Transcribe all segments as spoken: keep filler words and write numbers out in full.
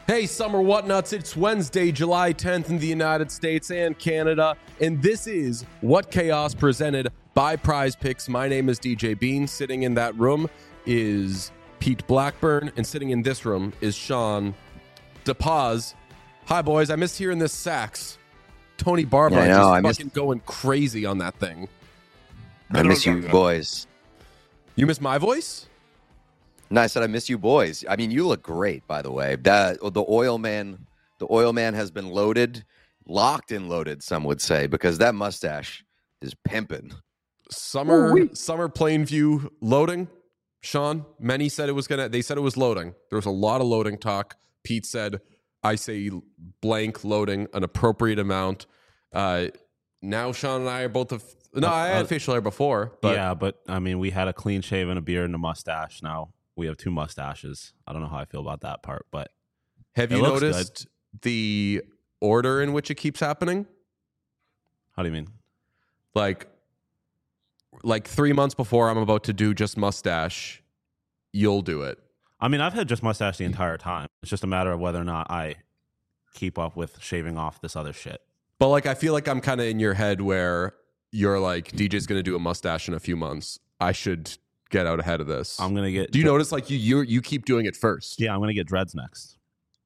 Hey, Summer Whatnuts, it's Wednesday, July tenth in the United States and Canada, and this is What Chaos presented by Prize Picks. My name is D J Bean. Sitting in that room is Pete Blackburn, and sitting in this room is Sean DePaz. Hi, boys. I missed hearing this sax. Tony Barber yeah, just I fucking miss, going crazy on that thing. I miss you boys. You miss my voice? No, I said I miss you boys. I mean, you look great, by the way. That the oil man, the oil man has been loaded, locked and loaded. Some would say, because that mustache is pimping. Summer, Ooh-wee. Summer Plainview loading. Sean, many said it was gonna. They said it was loading. There was a lot of loading talk. Pete said, "I say blank loading, an appropriate amount." Uh, now Sean and I are both of. No, I had uh, facial hair before. But yeah, but I mean, we had a clean shave and a beard and a mustache. Now we have two mustaches. I don't know how I feel about that part, but have you noticed good. the order in which it keeps happening? How do you mean? Like, like three months before I'm about to do just mustache, you'll do it. I mean, I've had just mustache the entire time. It's just a matter of whether or not I keep up with shaving off this other shit. But like, I feel like I'm kind of in your head where you're like, D J's going to do a mustache in a few months. I should get out ahead of this. I'm going to get... Do you dre- notice like you, you you keep doing it first? Yeah, I'm going to get dreads next.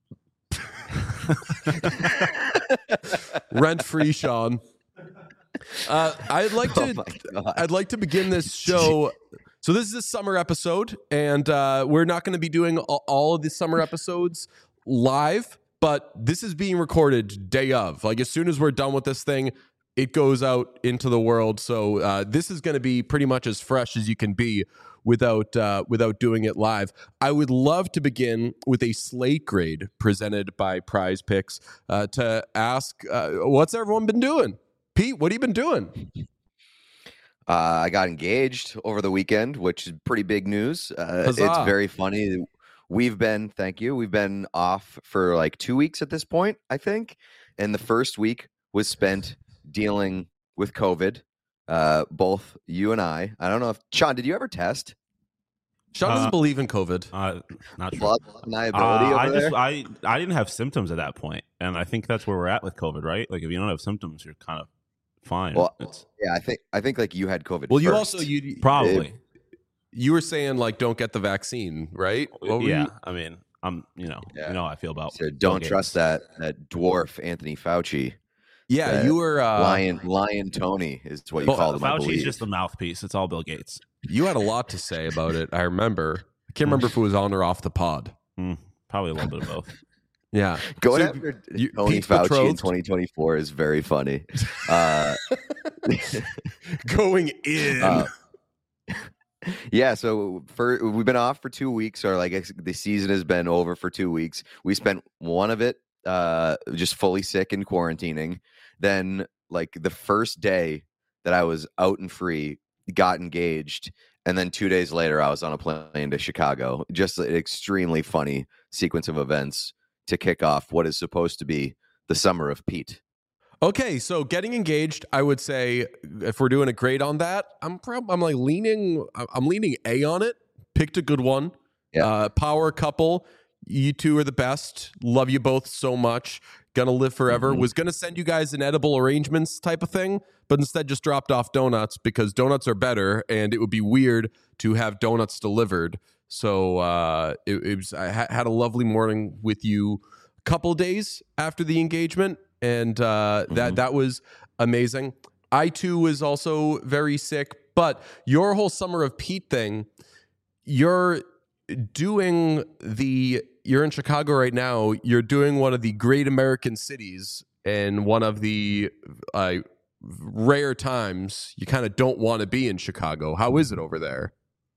Rent-free, Sean. Uh, I'd like to oh I'd like to begin this show. So this is a summer episode, and uh, we're not going to be doing all, all of the summer episodes live, but this is being recorded day of. Like as soon as we're done with this thing, it goes out into the world. So uh, this is going to be pretty much as fresh as you can be without uh, without doing it live. I would love to begin with a slate grade presented by Prize Picks uh, to ask, uh, what's everyone been doing? Pete, what have you been doing? Uh, I got engaged over the weekend, which is pretty big news. Uh, it's very funny. We've been, thank you, we've been off for like two weeks at this point, I think. And the first week was spent dealing with COVID, uh, both you and I. I don't know if Sean, did you ever test? Sean doesn't uh, believe in COVID. Uh, not true. Blood deniability uh, over I there? just I I didn't have symptoms at that point, and I think that's where we're at with COVID, right? Like if you don't have symptoms, you're kind of fine. Well, it's, yeah, I think I think like you had COVID. Well, first. you also you probably it, you were saying like don't get the vaccine, right? What yeah, you? I mean, I'm you know yeah. you know how I feel about. So don't trust that that dwarf Anthony Fauci. Yeah, you were uh, Lion Lion Tony is what you well, called him. Fauci's just the mouthpiece. It's all Bill Gates. You had a lot to say about it. I remember. I can't remember if it was on or off the pod. Mm, probably a little bit of both. Yeah, going so, after you, Tony Pete's Fauci betrothed. in twenty twenty-four is very funny. Uh, going in. Uh, yeah, so for we've been off for two weeks, or like the season has been over for two weeks. We spent one of it uh, just fully sick and quarantining. Then, like the first day that I was out and free, got engaged. And then two days later, I was on a plane to Chicago. Just an extremely funny sequence of events to kick off what is supposed to be the summer of Pete. Okay, so getting engaged, I would say if we're doing a grade on that, I'm prob- I'm like leaning, I'm leaning A on it. Picked a good one. Yeah. Uh, power couple. You two are the best. Love you both so much. Gonna live forever. Mm-hmm. Was gonna send you guys an edible arrangements type of thing, but instead just dropped off donuts because donuts are better, and it would be weird to have donuts delivered. So uh, it, it was. I ha- had a lovely morning with you a couple days after the engagement, and uh, mm-hmm. that that was amazing. I too was also very sick, but your whole summer of Pete thing, you're doing the. You're in Chicago right now. You're doing one of the great American cities and one of the uh, rare times you kind of don't want to be in Chicago. How is it over there?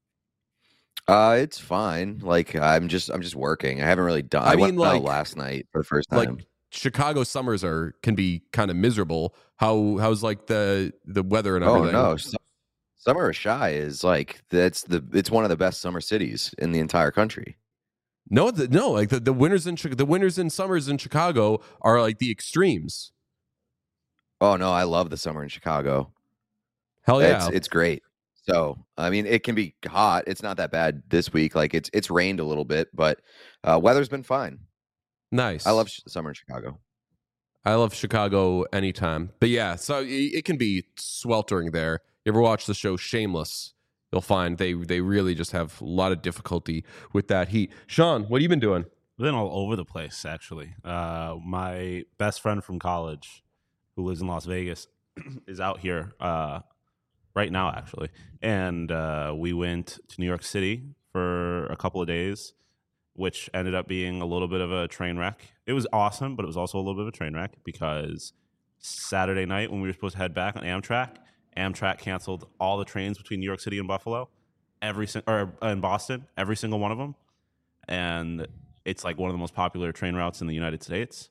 Uh, it's fine. Like I'm just, I'm just working. I haven't really done. I, I mean, went like, out last night for the first time. Like Chicago summers are can be kind of miserable. How how's like the the weather and everything? Oh no, Summer of Shy is like that's the it's one of the best summer cities in the entire country. No, the, no, like the, the winters in the winters and summers in Chicago are like the extremes. Oh no, I love the summer in Chicago. Hell yeah, it's, it's great. So I mean, it can be hot. It's not that bad this week. Like it's it's rained a little bit, but uh, weather's been fine. Nice. I love sh- summer in Chicago. I love Chicago anytime. But yeah, so it, it can be sweltering there. You ever watch the show Shameless? You'll find they they really just have a lot of difficulty with that heat. Sean, what have you been doing? Been all over the place, actually. Uh, my best friend from college, who lives in Las Vegas, is out here uh, right now, actually. And uh, we went to New York City for a couple of days, which ended up being a little bit of a train wreck. It was awesome, but it was also a little bit of a train wreck because Saturday night when we were supposed to head back on Amtrak, Amtrak canceled all the trains between New York City and Buffalo, every si- or uh, in Boston, every single one of them. And it's like one of the most popular train routes in the United States.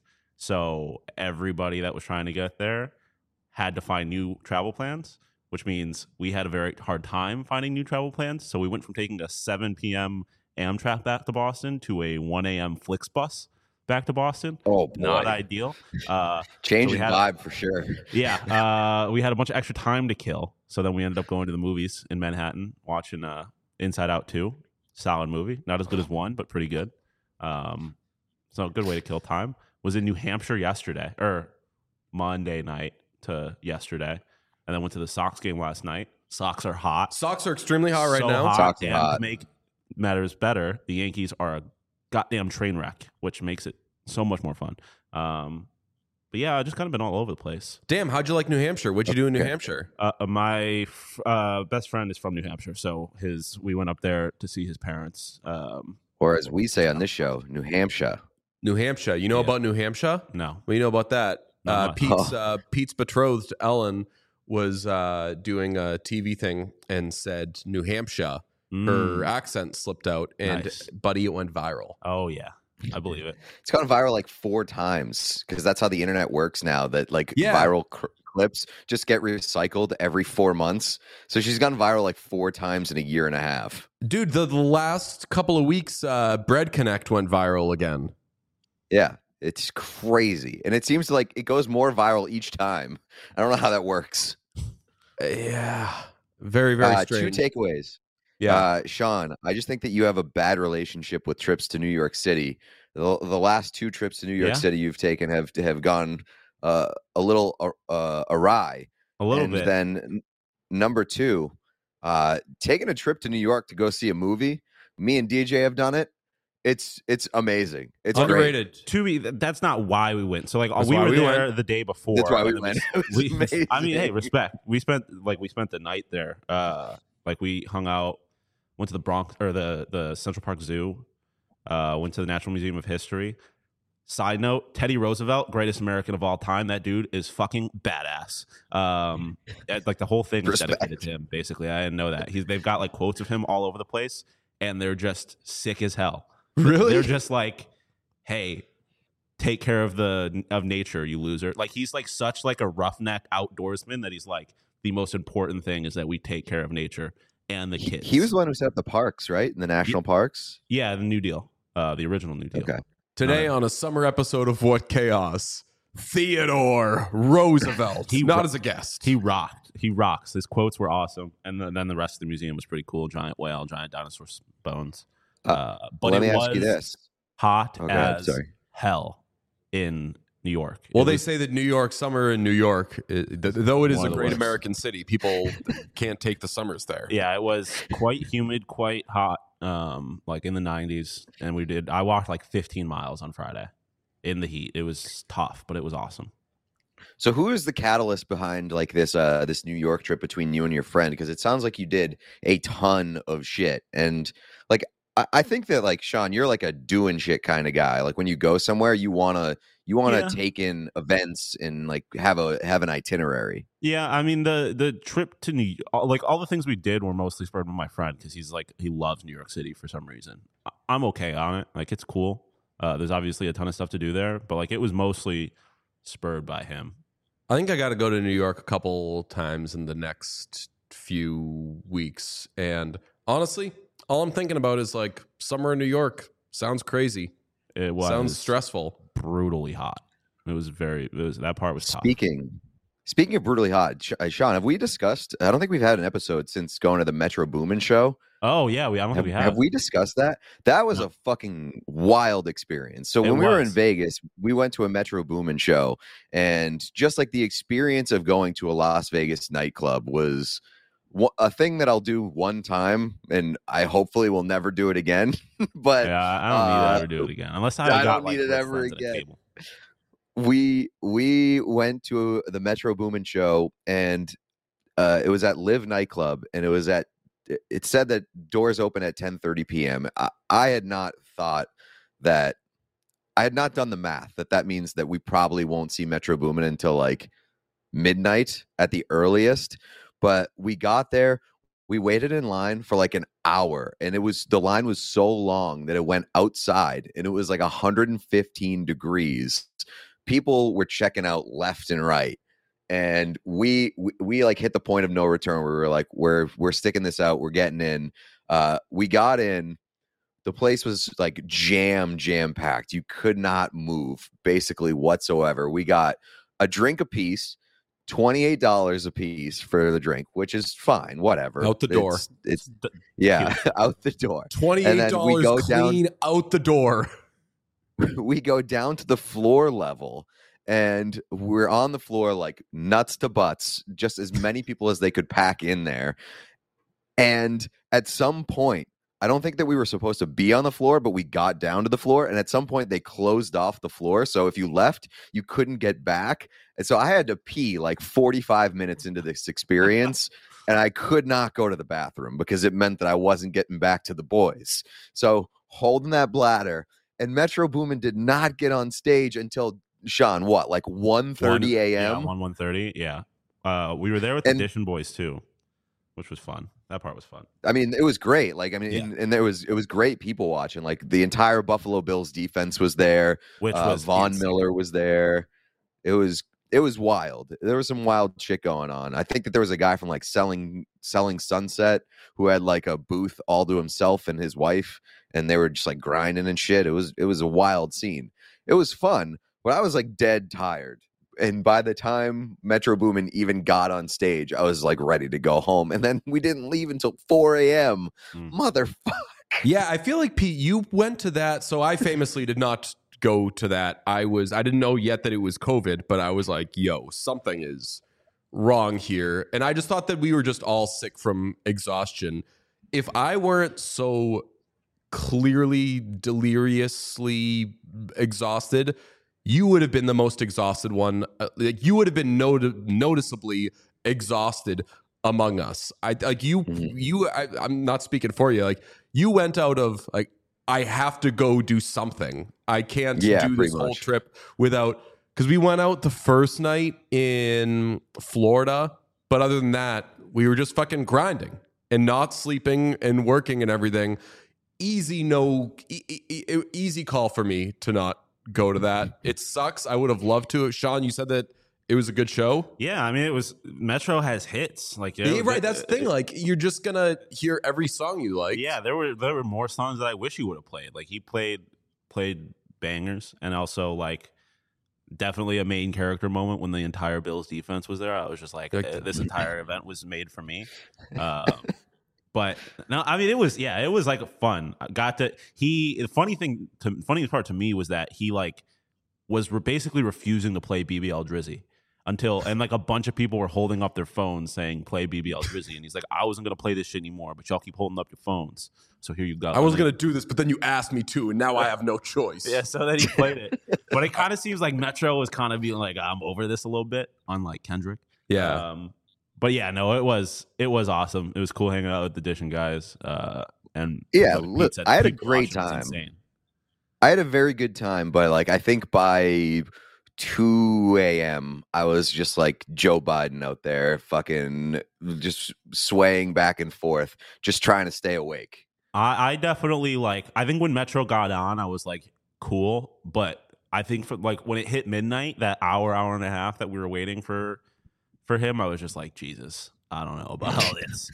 So everybody that was trying to get there had to find new travel plans, which means we had a very hard time finding new travel plans. So we went from taking a seven p.m. Amtrak back to Boston to a one a.m. Flixbus back to Boston. Oh, boy. Not ideal. Uh, Changing so had, vibe for sure. Yeah. Uh, we had a bunch of extra time to kill. So then we ended up going to the movies in Manhattan, watching uh, Inside Out two. Solid movie. Not as good as one, but pretty good. Um, so a good way to kill time. Was in New Hampshire yesterday, or Monday night to yesterday. And then went to the Sox game last night. Sox are hot. Socks are extremely hot right so now. Hot, Sox are and hot. to make matters better, the Yankees are a goddamn train wreck, which makes it so much more fun. Um, but yeah, I just kind of been all over the place. Damn, how'd you like New Hampshire? What'd you do in New Okay. Hampshire? Uh, uh, my f- uh, best friend is from New Hampshire, so his we went up there to see his parents. Um, Or as we say on this show, New Hampshire. New Hampshire. You know Yeah. about New Hampshire? no, What do you know about that? Not Uh, much. Pete's Oh. uh, Pete's betrothed Ellen was uh, doing a T V thing and said New Hampshire. Her Mm. accent slipped out, and Nice. buddy, it went viral. Oh yeah, I believe it. It's gone viral like four times because that's how the internet works now. That like Yeah. viral cr- clips just get recycled every four months. So she's gone viral like four times in a year and a half. Dude, the, the last couple of weeks, uh, Bread Connect went viral again. Yeah, it's crazy, and it seems like it goes more viral each time. I don't know how that works. Uh, yeah, very very Uh, two strange. takeaways. yeah, Uh, Sean, I just think that you have a bad relationship with trips to New York City. The, the last two trips to New York Yeah. City you've taken have have gone uh, a little uh, awry. A little and bit. then n- number two, uh, taking a trip to New York to go see a movie. Me and D J have done it. It's it's amazing. It's great. underrated. To be, th- that's not why we went. So like That's we why were we there went. the day before. That's why we and then went. It was we- I mean, hey, amazing. respect. We spent like we spent the night there. Uh, like we hung out, went to the Bronx or the the Central Park Zoo. Uh, went to the Natural Museum of History. Side note: Teddy Roosevelt, greatest American of all time. That dude is fucking badass. Um, eh, like the whole thing is Respect. dedicated to him. Basically, I didn't know that. He's they've got like quotes of him all over the place, and they're just sick as hell. Really? They're just like, hey, take care of the of nature, you loser. Like he's like such like a roughneck outdoorsman that he's like the most important thing is that we take care of nature and the He, kids. he was the one who set up the parks, right? In the national parks. yeah, the New Deal, uh, the original New Deal. Okay. Today on a summer episode of What Chaos, Theodore Roosevelt, He not ro- as a guest. He rocked. He rocks. His quotes were awesome, and then, then the rest of the museum was pretty cool. Giant whale, giant dinosaur s- bones. Uh, Uh, but Let it me was ask you this. hot Oh, go ahead. as Sorry. hell in New York. Well, It they was- say that New York summer in New York, i- th- though it is One a of the great worst. American city, people can't take the summers there. Yeah, it was quite humid, quite hot, um, like in the nineties. And we did, I walked like fifteen miles on Friday in the heat. It was tough, but it was awesome. So who is the catalyst behind like this uh this New York trip between you and your friend? Because it sounds like you did a ton of shit. And like I, I think that like Sean, you're like a doing shit kind of guy. Like when you go somewhere, you wanna you wanna Yeah. take in events and like have a have an itinerary. Yeah, I mean the the trip to New all- like all the things we did were mostly spurred by my friend because he's like he loves New York City for some reason. I- I'm okay on it. Like it's cool. Uh, there's obviously a ton of stuff to do there, but like it was mostly spurred by him. I think I got to go to New York a couple times in the next few weeks. And honestly, all I'm thinking about is like summer in New York. Sounds crazy. It was Sounds stressful. brutally hot. It was very. It was that part was tough. Speaking speaking of brutally hot, Sh- uh, Sean, have we discussed? I don't think we've had an episode since going to the Metro Boomin show. Oh yeah, we I don't Have, think we have. have we discussed that? That was No. a fucking wild experience. So It when we were in was. Vegas, we went to a Metro Boomin show, and just like the experience of going to a Las Vegas nightclub was wha- a thing that I'll do one time, and I hopefully will never do it again. But Yeah, I I don't need uh, to ever do it again unless I, I got don't like need it rich ever friends at a again. table. we we went to the Metro Boomin show, and uh, it was at Live nightclub, and it was at it- it said that doors open at ten thirty p.m. I, I had not thought that I had not done the math that that means that we probably won't see Metro Boomin until like midnight at the earliest. But we got there, we waited in line for like an hour, and it was the line was so long that it went outside, and it was like one hundred fifteen degrees. People were checking out left and right, and we, we we like hit the point of no return where we were like, we're we're sticking this out, we're getting in. Uh we got in. The place was like jam jam packed. You could not move basically whatsoever. We got a drink a piece, twenty-eight dollars a piece for the drink, which is fine, whatever. Out the door. It's, it's D- yeah, out the door. twenty-eight dollars we go down- clean out the door. We go down to the floor level, and we're on the floor like nuts to butts, just as many people as they could pack in there. And at some point, I don't think that we were supposed to be on the floor, but we got down to the floor, and at some point they closed off the floor, so if you left, you couldn't get back. And so I had to pee like forty-five minutes into this experience, and I could not go to the bathroom because it meant that I wasn't getting back to the boys. So holding that bladder, and Metro Boomin did not get on stage until, Sean, what, like one thirty a.m.? Yeah, one one thirty. Yeah, uh, we were there with the And- Edition Boys too, which was fun. That part was fun. I mean, it was great. Like, I mean, Yeah. and, and there was it was great people watching. Like, the entire Buffalo Bills defense was there. Which Uh, was Von insane. Miller was there. It was it was wild. There was some wild shit going on. I think that there was a guy from like selling selling Sunset who had like a booth all to himself and his wife, and they were just like grinding and shit. It was it was a wild scene. It was fun, but I was like dead tired. And by the time Metro Boomin even got on stage, I was like ready to go home. And then we didn't leave until four a.m. Mm. Motherfucker. Yeah, I feel like Pete, you went to that. So I famously did not go to that. I was, I didn't know yet that it was COVID, but I was like, yo, something is wrong here. And I just thought that we were just all sick from exhaustion. If I weren't so clearly deliriously exhausted, you would have been the most exhausted one. Uh, like you would have been not- noticeably exhausted among us. I like you. Mhm. You. I, I'm not speaking for you. Like you went out of like I have to go do something. I can't Yeah, do pretty this whole much. trip without because we went out the first night in Florida, but other than that, we were just fucking grinding and not sleeping and working and everything. Easy, no, e- e- e- easy call for me to not go to that. It sucks. I would have loved to. Sean, you said that it was a good show. Yeah, I mean, it was Metro has hits. Like, Yeah, yeah, right. That's the thing. Like, you're just gonna hear every song you like. yeah, there were there were more songs that I wish he would have played. Like he played played bangers, and also like definitely a main character moment when the entire Bills defense was there. I was just like, Like- eh, this entire event was made for me. Um, but no, I mean, it was yeah, it was like fun. I got to he. The funny thing, to, funniest part to me was that he like was re- basically refusing to play B B L Drizzy. Until and like a bunch of people were holding up their phones saying play B B L Drizzy, and he's like, I wasn't gonna play this shit anymore, but y'all keep holding up your phones, so here you go. I wasn't And gonna do this, but then you asked me to, and now I have no choice. then- yeah, so then he played it, but it kind of seems like Metro was kind of being like, I'm over this a little bit, unlike Kendrick. Yeah. Um, but yeah, no, it was it was awesome. It was cool hanging out with the Edition guys. Uh, and Yeah, like Pete look, said, I had a people great watching was time. insane. I had a very good time, but like I think by two a.m. I was just like Joe Biden out there, fucking just swaying back and forth, just trying to stay awake. I, I definitely like. I think when Metro got on, I was like, cool. But I think for like when it hit midnight, that hour, hour and a half that we were waiting for for him, I was just like, Jesus, I don't know about all this,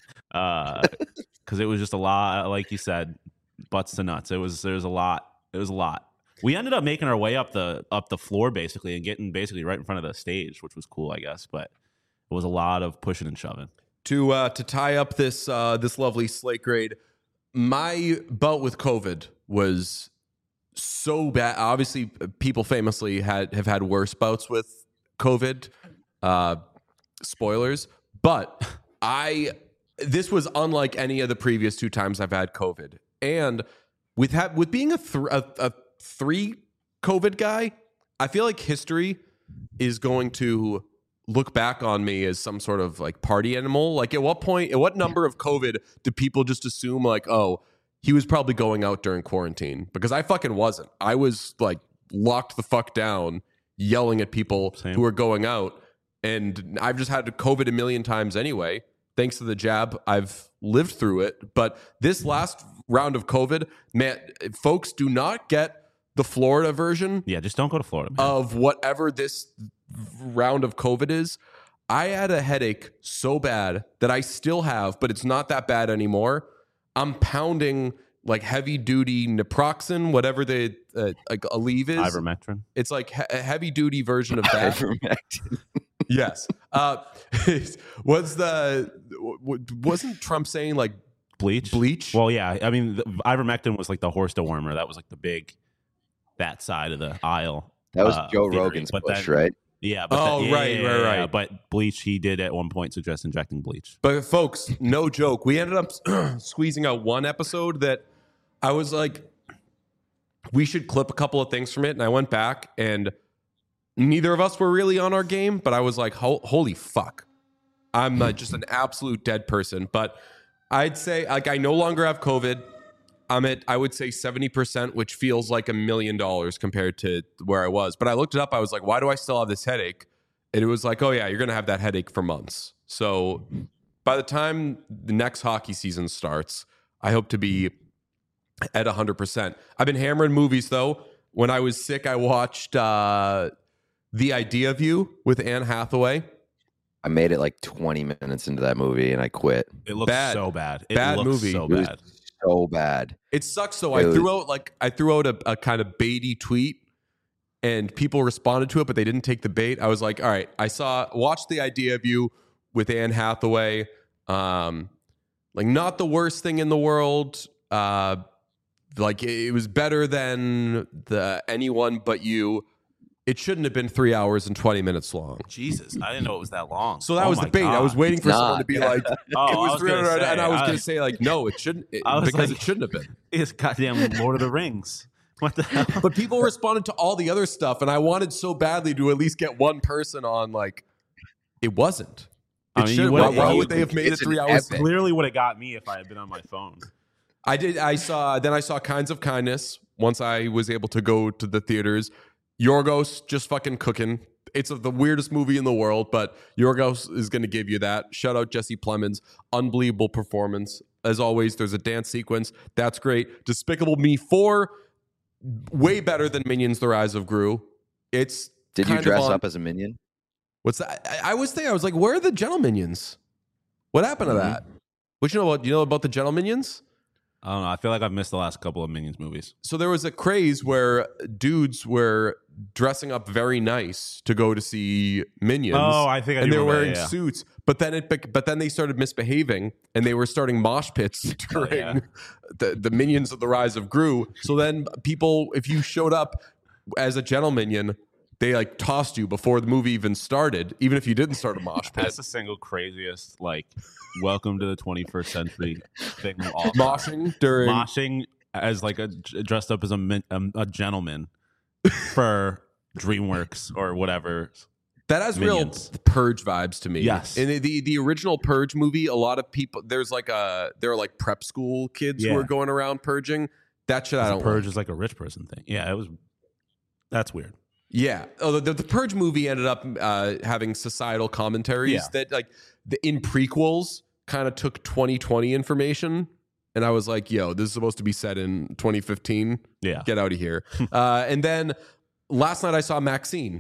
because it was just a lot. Like you said, butts to nuts. It was there was a lot. It was a lot. We ended up making our way up the up the floor basically and getting basically right in front of the stage, which was cool, I guess. But it was a lot of pushing and shoving. To uh, to tie up this uh, this lovely slate grade, my bout with COVID was so bad. Obviously, people famously had have had worse bouts with COVID. Uh, spoilers, but I this was unlike any of the previous two times I've had COVID, and with ha- with being a, th- a a three COVID guy, I feel like history is going to look back on me as some sort of like party animal. Like, at what point, at what number of COVID do people just assume like, oh, he was probably going out during quarantine? Because I fucking wasn't. I was like locked the fuck down, yelling at people Same. who were going out. And I've just had COVID a million times anyway. Thanks to the jab, I've lived through it. But this last round of COVID, man, folks, do not get the Florida version Yeah, just don't go to Florida, man. of whatever this round of COVID is. I had a headache so bad that I still have, but it's not that bad anymore. I'm pounding like heavy duty naproxen, whatever the uh, like Aleve is. Ivermectin. It's like he- a heavy duty version of that. Ivermectin. Yes. Uh, was the w- wasn't Trump saying like Bleach. bleach? Well, yeah. I mean, the, ivermectin was like the horse dewormer. That was like the big, that side of the aisle. That was uh, Joe theory. Rogan's But push, then- right? Yeah. But Oh, then- yeah, right, yeah, right, yeah, right. yeah. But bleach, he did at one point suggest injecting bleach. But folks, no joke. We ended up squeezing out one episode that I was like, we should clip a couple of things from it. And I went back and neither of us were really on our game, but I was like, Ho- holy fuck. I'm uh, just an absolute dead person. But I'd say, like, I no longer have COVID. I'm at, I would say seventy percent, which feels like a million dollars compared to where I was. But I looked it up. I was like, why do I still have this headache? And it was like, oh, yeah, you're going to have that headache for months. So by the time the next hockey season starts, I hope to be at one hundred percent. I've been hammering movies, though. When I was sick, I watched uh, The Idea of You with Anne Hathaway. I made it like twenty minutes into that movie and I quit. It looks Bad. so bad. It Bad looks movie. so It was bad. so bad. It sucks, though. It I was- threw out like I threw out a, a kind of baity tweet, and people responded to it, but they didn't take the bait. I was like, all right, I saw watched The Idea of You with Anne Hathaway. Um, like, not the worst thing in the world. Uh, like, it was better than the Anyone But You. It shouldn't have been three hours and twenty minutes long. Jesus, I didn't know it was that long. So that Oh was the my bait. I was God. waiting for It's someone not. to be like, Oh, it I was was three gonna hundred, say, and I was I- going to say like, no, it shouldn't, it, I was because like- it shouldn't have been. It's goddamn Lord of the Rings. What the hell? But people responded to all the other stuff, and I wanted so badly to at least get one person on like, it wasn't. It I mean, you should. would- Why, why you- would they have made it it's an three hours? epic. Clearly would have got me if I had been on my phone. I did. I saw. Then I saw Kinds of Kindness. Once I was able to go to the theaters, Yorgos just fucking cooking. It's the weirdest movie in the world, but Yorgos is going to give you that. Shout out Jesse Plemons, unbelievable performance. As always, there's a dance sequence that's great. Despicable Me four, way better than Minions: The Rise of Gru. It's Did you kind of dress on- up as a minion? What's that? I, I was thinking, I was like, where are the Gentle Minions? What happened to Mhm. that? What you know about? You know about the Gentle Minions? I don't know. I feel like I've missed the last couple of Minions movies. So there was a craze where dudes were dressing up very nice to go to see Minions. Oh, I think I and do they were remember wearing that, yeah. suits, but then it bec- but then they started misbehaving and they were starting mosh pits during Oh, yeah. the, the Minions of the Rise of Gru. So then people, if you showed up as a Gentle Minion, they like tossed you before the movie even started, even if you didn't start a mosh pit. That's the single craziest, like, welcome to the twenty-first century thing of all time. Moshing during Moshing as like a dressed up as a min, um, a gentleman for DreamWorks or whatever. that has Minions. real Purge vibes to me. Yes. In the, the the original Purge movie, a lot of people there's like a there are like prep school kids who Yeah. are going around purging. That shit I don't Purge like. is like a rich person thing. Yeah, it was. That's weird. Yeah. Oh, the, the Purge movie ended up uh, having societal commentaries Yeah. that like the, in prequels kind of took twenty twenty information. And I was like, yo, this is supposed to be set in twenty fifteen. Yeah. Get out of here. uh, and then last night I saw Maxine,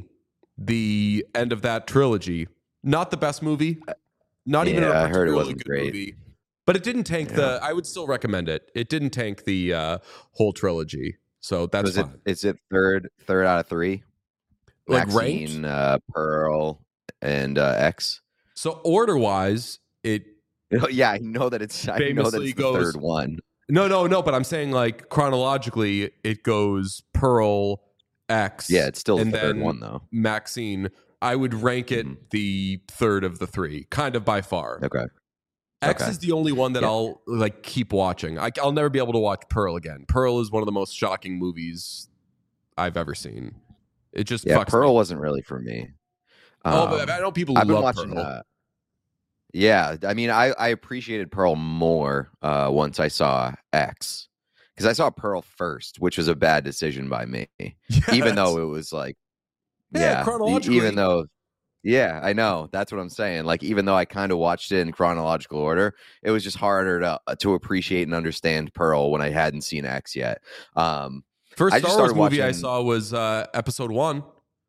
the end of that trilogy. Not the best movie. Not even a Yeah, I heard it particularly wasn't good great. movie. But it didn't tank the. I would still recommend it. It didn't tank the uh, whole trilogy. So that's Was it? fine. Is it third? Third out of three? Like Maxine, ranked. uh, Pearl, and uh, X. So order wise, it Yeah, I know that it's. I know that Famously it's the goes- third one. No, no, no. But I'm saying like chronologically, it goes Pearl, X. Yeah, it's still the and third then one though. Maxine. I would rank it Mhm. the third of the three, kind of by far. Okay. X Okay. is the only one that Yeah. I'll like keep watching. I, I'll never be able to watch Pearl again. Pearl is one of the most shocking movies I've ever seen. It just Yeah, fucks Pearl me. wasn't really for me. Oh, but Um, I know people who I've been love watching. Pearl. Uh, yeah, I mean, I I appreciated Pearl more uh, once I saw X, because I saw Pearl first, which was a bad decision by me. Yeah, Even that's- though it was like, Yeah, yeah, e- chronologically. even though, yeah, I know that's what I'm saying. Like, even though I kind of watched it in chronological order, it was just harder to to appreciate and understand Pearl when I hadn't seen X yet. Um, First I just Star Wars started movie I watching- saw was uh, Episode One.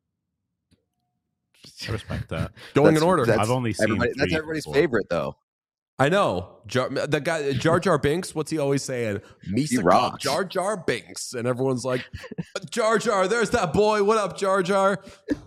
I respect that. Going That's- in order. that's I've only seen everybody, that's three everybody's before. favorite though. I know. Jar, the guy Jar Jar Binks, what's he always saying? Misa rocks. Jar Jar Binks. And everyone's like, Jar Jar, there's that boy. What up, Jar Jar?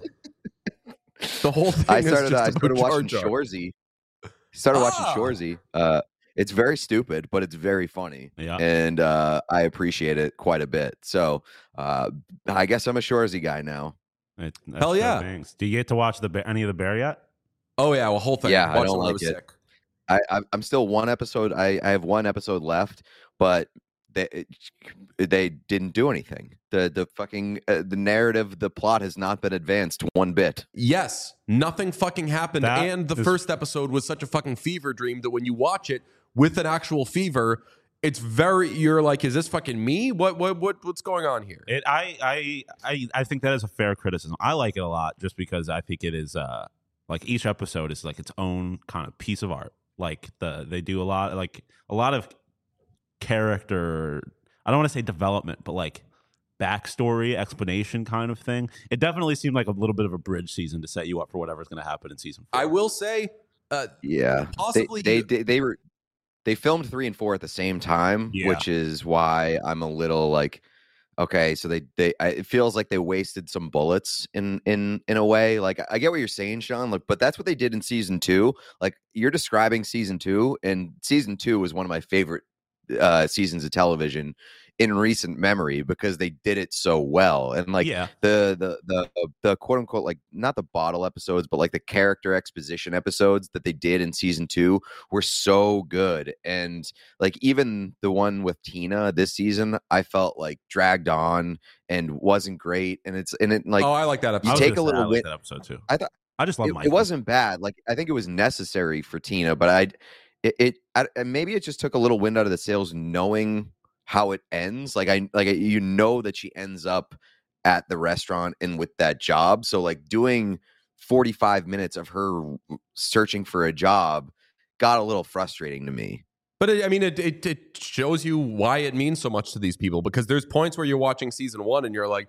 The whole thing I is started. just I about started Jar watching Jar. Shorzy. Started watching Ah. Shorzy. Uh, it's very stupid, but it's very funny, Yeah. and uh, I appreciate it quite a bit. So uh, I guess I'm a Shorzy guy now. It, that's Hell so yeah. bangs. Do you get to watch the Bear- any of the Bear yet? Oh, yeah, well, whole thing. Yeah, I Watched don't when like was it. sick. I, I I'm still one episode. I, I have one episode left, but they it- they didn't do anything. The the fucking uh, the narrative, the plot has not been advanced one bit. Yes, nothing fucking happened. That and the is- first episode was such a fucking fever dream that when you watch it with an actual fever, it's very, you're like, is this fucking me? What, what, what, what's going on here? It, I, I, I, I think that is a fair criticism. I like it a lot just because I think it is uh, like each episode is like its own kind of piece of art. Like the they do a lot, like a lot of character. I don't want to say development, but like backstory, explanation kind of thing. It definitely seemed like a little bit of a bridge season to set you up for whatever's going to happen in season four. I will say, uh, Yeah, possibly they they, they they were they filmed three and four at the same time, Yeah. which is why I'm a little like, okay, so they they I, it feels like they wasted some bullets in in in a way. Like I get what you're saying, Sean. Like, but that's what they did in season two. Like you're describing season two, and season two was one of my favorite uh seasons of television in recent memory because they did it so well. And like yeah, the the the the quote unquote, like not the bottle episodes, but like the character exposition episodes that they did in season two were so good. And like even the one with Tina this season, I felt like dragged on and wasn't great. And it's and it like oh, I like that I episode. was take gonna a say, little I like wit- that episode too. I thought I just love it, it Michael. wasn't bad. Like I think it was necessary for Tina, but I it, it I, and maybe it just took a little wind out of the sails knowing how it ends. Like I like you know that she ends up at the restaurant and with that job. So like doing forty-five minutes of her searching for a job got a little frustrating to me. But it, I mean, it, it it shows you why it means so much to these people, because there's points where you're watching season one and you're like,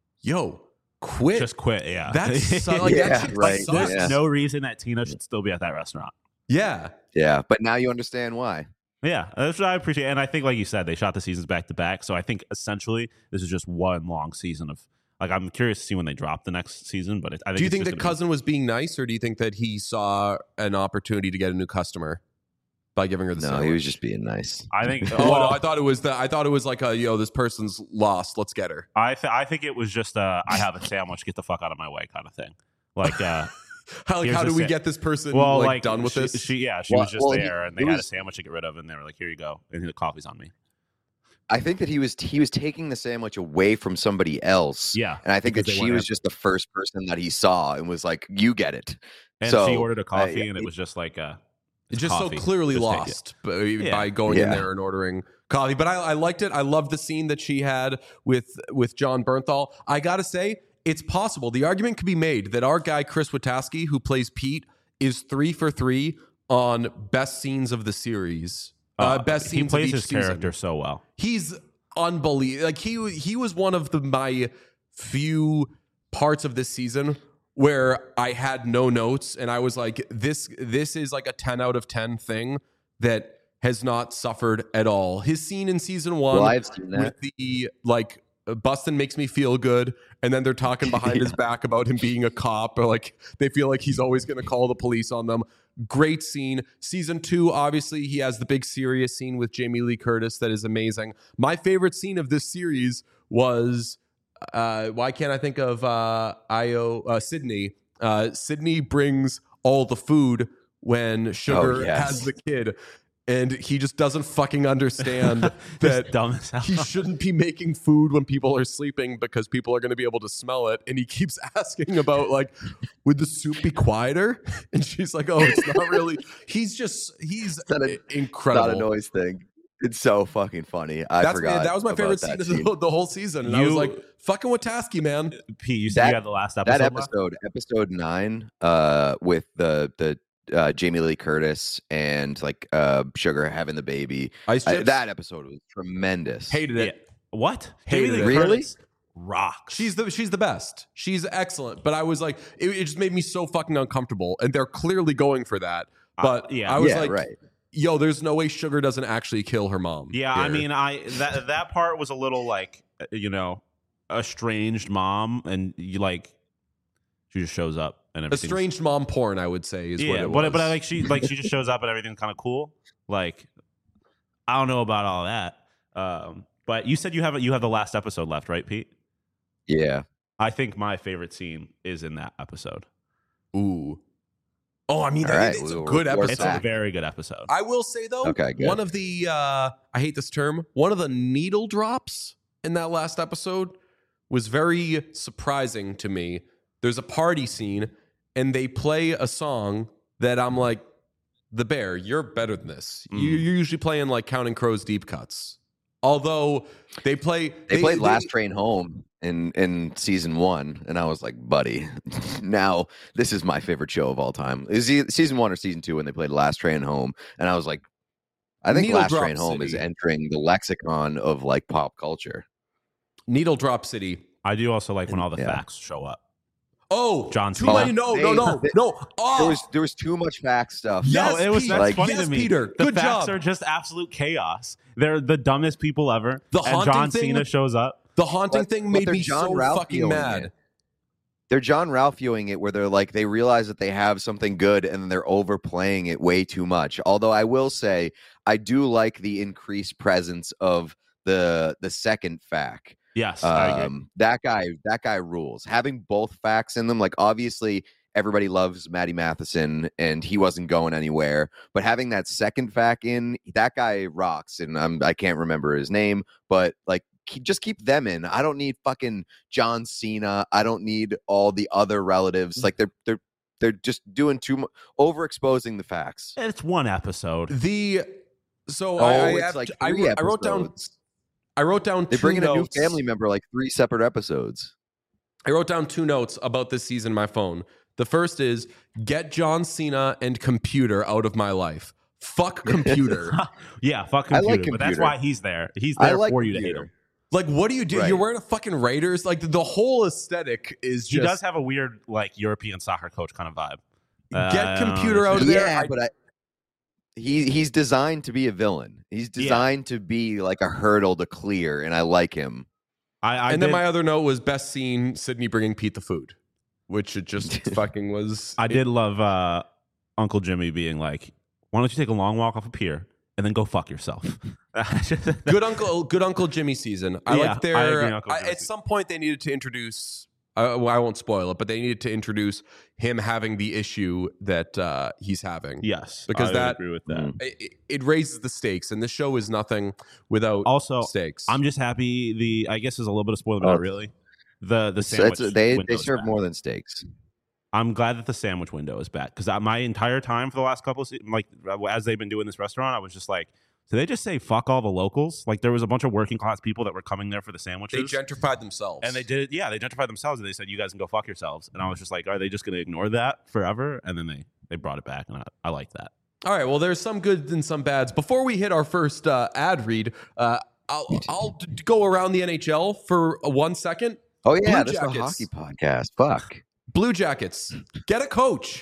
yo, quit. Just quit. Yeah, That's so, like, Yeah, that shit right. sucks. There's Yeah. no reason that Tina should still be at that restaurant. Yeah. Yeah, but now you understand why. Yeah, that's what I appreciate. And I think, like you said, they shot the seasons back to back. So I think essentially this is just one long season of. Like, I'm curious to see when they drop the next season. But it, I think Do you it's think just that gonna be- Cousin was being nice, or do you think that he saw an opportunity to get a new customer by giving her the No, sandwich? he was just being nice. I think. Oh, well, no, I thought it was the. I thought it was like a yo. This person's lost. Let's get her. I th- I think it was just uh, I have a sandwich, get the fuck out of my way kind of thing. Like, uh, How, like, Here's how the do we sa- get this person well, like, like done with she, this? She, yeah, she Well- was just well, he- there, and they it had was- a sandwich to get rid of, and they were like, "Here you go," and the coffee's on me. I think that he was he was taking the sandwich away from somebody else. Yeah, And I think that because they she went was after- just the first person that he saw and was like, you get it. and So, she ordered a coffee, uh, and it was just like uh, It's it's just coffee. so clearly Just take it. lost by, Yeah. by going in Yeah. there and ordering coffee. But I, I liked it. I loved the scene that she had with with John Bernthal. I gotta say, it's possible. The argument could be made that our guy Chris Witowski, who plays Pete, is three for three on best scenes of the series. Uh, Uh, best he scenes plays of each his season. character so well. He's unbelievable. Like he he was one of the my few parts of this season where I had no notes and I was like, this this is like a ten out of ten thing that has not suffered at all. His scene in season one Well, I've seen that. with the like Bustin makes me feel good, and then they're talking behind Yeah. his back about him being a cop, or like they feel like he's always going to call the police on them. Great scene. Season two, obviously, he has the big serious scene with Jamie Lee Curtis that is amazing. My favorite scene of this series was uh, why can't I think of uh, Io uh, Sydney? Uh, Sydney brings all the food when Sugar Oh, yes. has the kid. And he just doesn't fucking understand that dumb as hell. he shouldn't be making food when people are sleeping because people are going to be able to smell it. And he keeps asking about, like, would the soup be quieter? And she's like, oh, it's not really. He's just, he's not a- incredible. Not a noise thing. It's so fucking funny. I That's forgot. that was my about favorite scene that of scene. the, the whole season. And I was You- like, fucking Wataski, man. Pete, you said That- you had the last episode. That left? episode, episode nine, uh, with the the uh, Jamie Lee Curtis and like uh, Sugar having the baby. Ice I- Chips. that episode was tremendous. Hated Yeah. it. What? Hated Jamie it. Lee Really? Curtis rocks. She's the she's the best. She's excellent. But I was like, it, it just made me so fucking uncomfortable. And they're clearly going for that. But Uh, yeah. I was yeah, like, right. yo, there's no way Sugar doesn't actually kill her mom. Yeah, I here. mean, I that that part was a little like, uh, you know, estranged mom, and you like, she just shows up and everything. estranged mom porn, I would say, is yeah, what it but was. but I like she like she just shows up and everything's kind of cool. Like, I don't know about all that. Um, but you said you have you have the last episode left, right, Pete? Yeah. I think my favorite scene is in that episode. Ooh. Oh, I mean, All that- right, it's a we'll good report It's episode. a back. very good episode. I will say though, Okay, good. one of the uh, I hate this term, one of the needle drops in that last episode was very surprising to me. There's a party scene and they play a song that I'm like, The Bear, you're better than this. You, Mm. you're usually playing like Counting Crows deep cuts. Although they play, They, played Last Train Home in in season one, and I was like, buddy, now this is my favorite show of all time. Is it season one or season two when they played Last Train Home? And I was like, I think Needle Last Drop Train Home is City. entering the lexicon of like pop culture. Needle Drop City. I do also like when all the Yeah. facts show up. Oh, John too Cena. many. No, no, They- no, they- no. Oh, There was there was too much fact stuff. Yes, no, it was Pete. that's Like- funny yes, to me. Peter. The Good facts job. are just absolute chaos. They're the dumbest people ever. The and haunting John thing- Cena shows up. The haunting But- thing but made they're me John so Ralphioing fucking mad. it. They're John Ralphioing it where they're like they realize that they have something good and then they're overplaying it way too much. Although I will say I do like the increased presence of the the second fact. Yes, I agree. Um, that guy, that guy rules. Having both facts in them, like obviously everybody loves Matty Matheson, and he wasn't going anywhere. But having that second fact in, that guy rocks. And I'm, I can't remember his name, but like, keep, just keep them in. I don't need fucking John Cena. I don't need all the other relatives. Like they're they're they're just doing too much, overexposing the facts. It's one episode. The so Oh, I, I, it's have like to- I, three I wrote down. episodes. I wrote down. They two bring in a new notes. family member like three separate episodes. I wrote down two notes about this season. On my phone. The first is get John Cena and computer out of my life. Fuck computer. Yeah, fuck I computer, like but that's computer. why he's there. He's I there like for you to hate computer. him. Like, what do you do? Right. You're wearing a fucking Raiders. Like the whole aesthetic is He just does have a weird, like, European soccer coach kind of vibe. get Uh, computer out of there. Yeah, I- but I, he he's designed to be a villain. He's Yeah. designed to be like a hurdle to clear, and I like him. I, I and did, then my other note was best scene: Sydney bringing Pete the food, which it just fucking was. I did love uh, Uncle Jimmy being like, "Why don't you take a long walk off a pier and then go fuck yourself?" good uncle, good Uncle Jimmy season. I Yeah, like I their. agree, Uncle I- Jimmy at some point, they needed to introduce. Uh, well, I won't spoil it, but they needed to introduce him having the issue that uh, he's having. Yes, Because I would that- agree with that. Mm. It, it- it raises the stakes, and this show is nothing without Also, stakes. I'm just happy. The I guess is a little bit of spoiler, but Oh. not really. The the It's, sandwich it's, they window they is serve back. more than steaks. I'm glad that the sandwich window is back because my entire time for the last couple of se- like as they've been doing this restaurant, I was just like, did they just say fuck all the locals? Like there was a bunch of working class people that were coming there for the they sandwiches. gentrified themselves, And they did it, yeah. They gentrified themselves, and they said, "You guys can go fuck yourselves." And I was just like, "Are they just going to ignore that forever?" And then they they brought it back, and I, I like that. All right. Well, there's some goods and some bads. Before we hit our first uh, ad read, uh, I'll I'll d- go around the N H L for uh, one second. Oh yeah, Blue this is a Jackets. hockey podcast. Fuck. Blue Jackets, get a coach.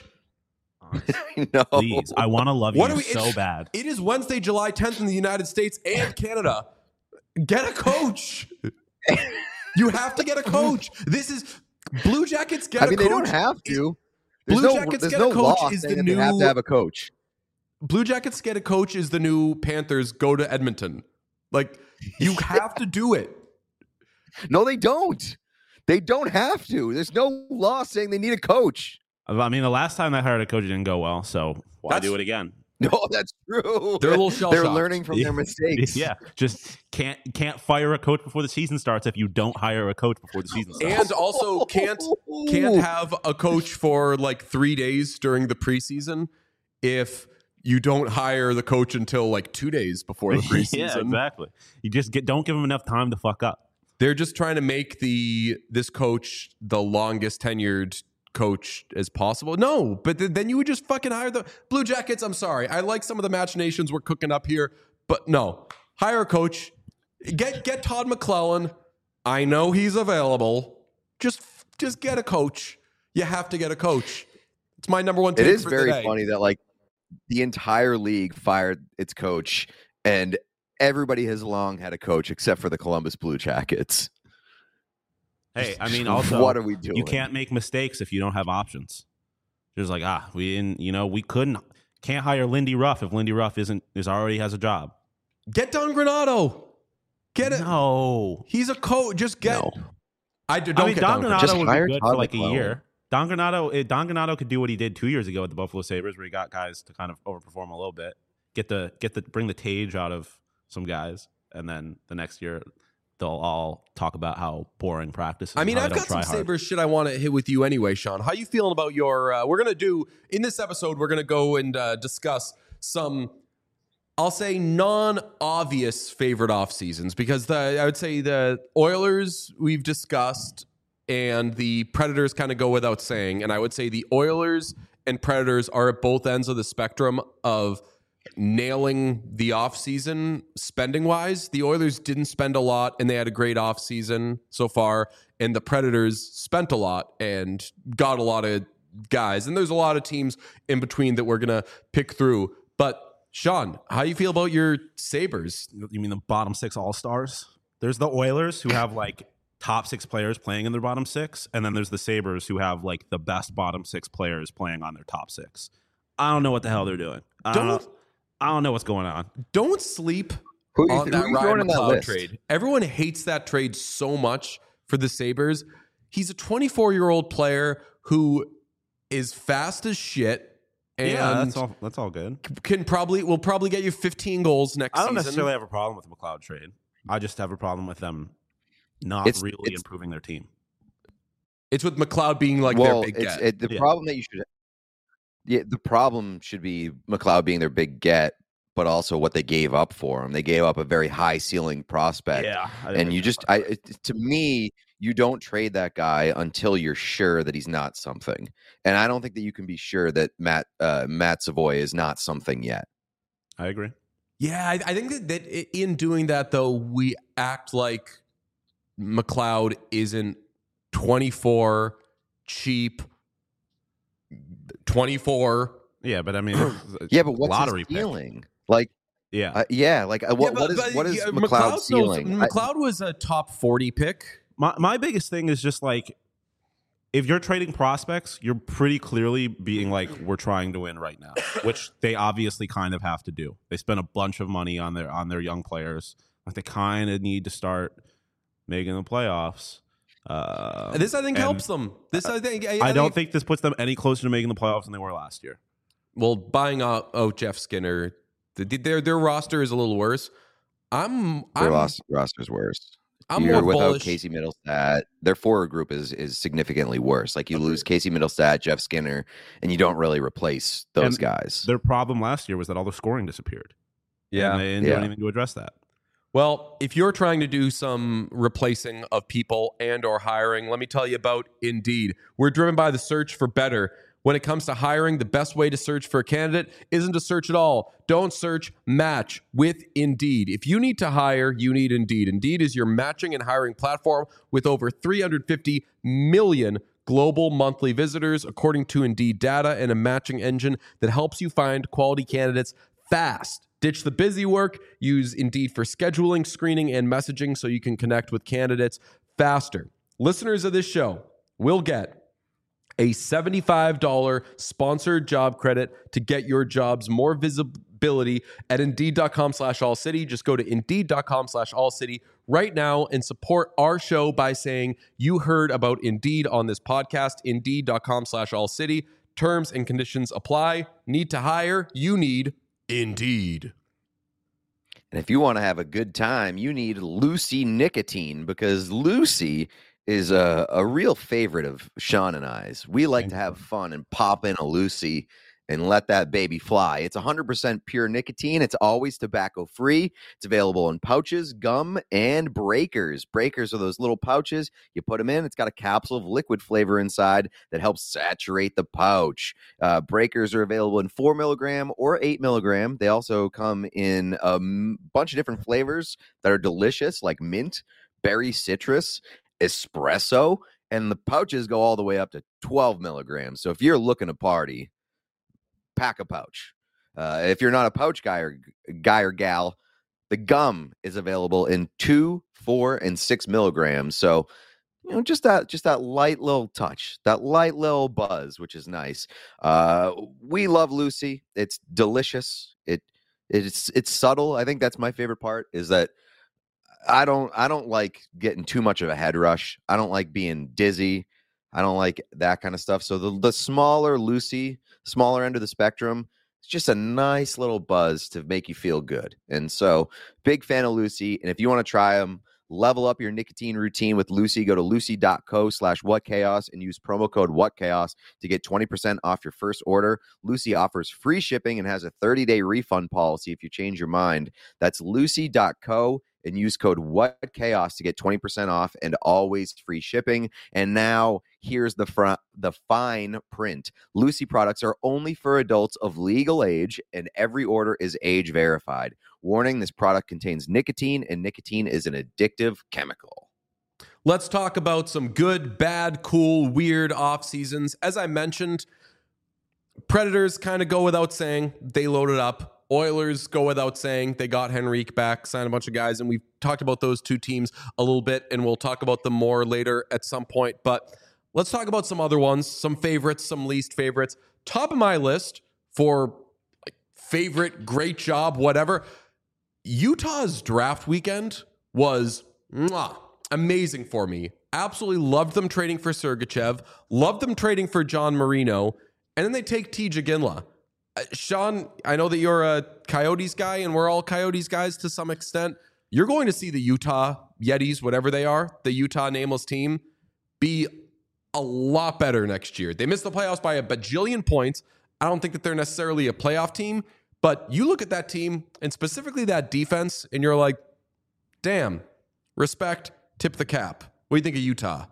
No. Please, I want to love What you are we- so it's- bad. It is Wednesday, July tenth in the United States and Canada. Get a coach. You have to get a coach. This is Blue Jackets get I mean, a coach. they don't have to. There's Blue no, Jackets there's get no a coach law is saying the that they have new- to have a coach. Blue Jackets get a coach is the new Panthers go to Edmonton. Like, you have to do it. No, they don't. They don't have to. There's no law saying they need a coach. I mean, the last time they hired a coach, it didn't go well. So why That's- do it again? No, that's true. They're a little shell They're shocked. learning from their mistakes. Yeah, just can't can't fire a coach before the season starts if you don't hire a coach before the season starts. And also can't can't have a coach for like three days during the preseason if you don't hire the coach until like two days before the preseason. Yeah, exactly. You just get don't give them enough time to fuck up. They're just trying to make the this coach the longest tenured coach as possible. No, but th- then you would just fucking hire the Blue Jackets. I'm sorry. I like some of the machinations we're cooking up here, but no. Hire a coach. Get get Todd McClellan. I know he's available. Just just get a coach. You have to get a coach. It's my number one take It is for very today. funny that like the entire league fired its coach, and everybody has long had a coach except for the Columbus Blue Jackets. Hey, I mean, also, what are we doing? you can't make mistakes if you don't have options. Just like ah, we didn't, you know, we couldn't can't hire Lindy Ruff if Lindy Ruff isn't is already has a job. Get Don Granado. Get it. No, He's a coach. Just get. No. I do, I don't mean get Don Don Granato Just would hire be good Todd for like McClellan. a year. Don Granato, eh, Don Granato could do what he did two years ago with the Buffalo Sabres, where he got guys to kind of overperform a little bit, get the get the bring the Tage out of some guys, and then the next year they'll all talk about how boring practice is. I mean, and how I've they got don't some try hard. Sabres shit I want to hit with you anyway, Sean. How you feeling about your? Uh, we're gonna do in this episode. We're gonna go and uh, discuss some, I'll say, non-obvious favorite off seasons because the I would say the Oilers we've discussed and the Predators kind of go without saying, and I would say the Oilers and Predators are at both ends of the spectrum of nailing the offseason spending wise. The Oilers didn't spend a lot and they had a great offseason so far, and the Predators spent a lot and got a lot of guys, and there's a lot of teams in between that we're gonna pick through. But Sean, how you feel about your Sabres? You mean the bottom six all stars? There's the Oilers who have like top six players playing in their bottom six, and then there's the Sabres who have like the best bottom six players playing on their top six. I don't know what the hell they're doing. I don't, Don't- know. I don't know what's going on. Don't sleep Who you- on who that you throwing Ryan in that McLeod list? trade. Everyone hates that trade so much for the Sabres. He's a twenty-four-year-old player who is fast as shit and yeah, that's all. That's all good. can probably will probably get you fifteen goals next I don't season. necessarily have a problem with the McLeod trade. I just have a problem with them not It's- really it's- improving their team. It's with McLeod being like well, their big it's get. it, the Yeah. problem that you should. Yeah, the problem should be McLeod being their big get, but also what they gave up for him. They gave up a very high ceiling prospect. Yeah, I And you just, I it- to me, you don't trade that guy until you're sure that he's not something. And I don't think that you can be sure that Matt uh, Matt Savoy is not something yet. I agree. Yeah, I, I think that, that i- in doing that, though, we act like McLeod isn't twenty-four, cheap, twenty-four. Yeah, but I mean, it's Yeah, but what's lottery his pick. ceiling? Like, Yeah, uh, yeah, like uh, what, Yeah, what but- is but, what is yeah, McLeod's McLeod's ceiling? I- McLeod was a top forty pick. my my biggest thing is just like if you're trading prospects, you're pretty clearly being like, we're trying to win right now, which they obviously kind of have to do. They spend a bunch of money on their on their young players. Like they kind of need to start making the playoffs. Uh, This, I think, and helps them. This, I think. I, I don't think this puts them any closer to making the playoffs than they were last year. Well, buying out oh Jeff Skinner, the, their their roster is a little worse. I'm Their I'm, roster, roster's worse. I'm You're more without bullish. Casey Middlestat. Their forward group is is significantly worse. Like you lose Casey Middlestat, Jeff Skinner, and you don't really replace those And guys. Their problem last year was that all their scoring disappeared. Yeah. and they didn't Yeah. do anything to address that. Well, if you're trying to do some replacing of people and or hiring, let me tell you about Indeed. We're driven by the search for better. When it comes to hiring, the best way to search for a candidate isn't to search at all. Don't search, match with Indeed. If you need to hire, you need Indeed. Indeed is your matching and hiring platform with over three hundred fifty million global monthly visitors, according to Indeed data, and a matching engine that helps you find quality candidates fast. Ditch the busy work. Use Indeed for scheduling, screening, and messaging so you can connect with candidates faster. Listeners of this show will get a seventy-five dollars sponsored job credit to get your jobs more visibility at indeed.com slash all city. Just go to indeed.com slash all city right now and support our show by saying you heard about Indeed on this podcast. Indeed.com slash all city. Terms and conditions apply. Need to hire? You need Indeed. And if you want to have a good time, you need Lucy Nicotine, because Lucy is a, a real favorite of Sean and I's. We like to have fun and pop in a Lucy and let that baby fly. It's one hundred percent pure nicotine. It's always tobacco free. It's available in pouches, gum, and breakers. Breakers are those little pouches. You put them in. It's got a capsule of liquid flavor inside that helps saturate the pouch. Uh, breakers are available in four milligram or eight milligram. They also come in a m- bunch of different flavors that are delicious, like mint, berry citrus, espresso, and the pouches go all the way up to twelve milligrams. So if you're looking to party, pack a pouch. Uh, if you're not a pouch guy or guy or gal, the gum is available in two, four, and six milligrams. So, you know, just that, just that light little touch, that light little buzz, which is nice. Uh, we love Lucy. It's delicious. It, it's, it's subtle. I think that's my favorite part, is that I don't, I don't like getting too much of a head rush. I don't like being dizzy. I don't like that kind of stuff. So the, the smaller Lucy, smaller end of the spectrum, it's just a nice little buzz to make you feel good. And so, big fan of Lucy. And if you want to try them, level up your nicotine routine with Lucy. Go to lucy.co slash whatchaos and use promo code whatchaos to get twenty percent off your first order. Lucy offers free shipping and has a thirty-day refund policy if you change your mind. That's lucy.co and use code whatchaos to get twenty percent off and always free shipping. And now here's the front, the fine print. Lucy products are only for adults of legal age, and every order is age verified. Warning, this product contains nicotine, and nicotine is an addictive chemical. Let's talk about some good, bad, cool, weird off seasons. As I mentioned, Predators kind of go without saying. They loaded up. Oilers go without saying. They got Henrique back, signed a bunch of guys, and we've talked about those two teams a little bit, and we'll talk about them more later at some point. But let's talk about some other ones, some favorites, some least favorites. Top of my list for like, favorite, great job, whatever. Utah's draft weekend was mwah, amazing for me. Absolutely loved them trading for Sergachev, loved them trading for John Marino, and then they take T. Ginla. Uh, Sean, I know that you're a Coyotes guy, and we're all Coyotes guys to some extent. You're going to see the Utah Yetis, whatever they are, the Utah nameless team, be a lot better next year. They missed the playoffs by a bajillion points. I don't think that they're necessarily a playoff team, but you look at that team and specifically that defense, and you're like, damn, respect, tip the cap. What do you think of Utah?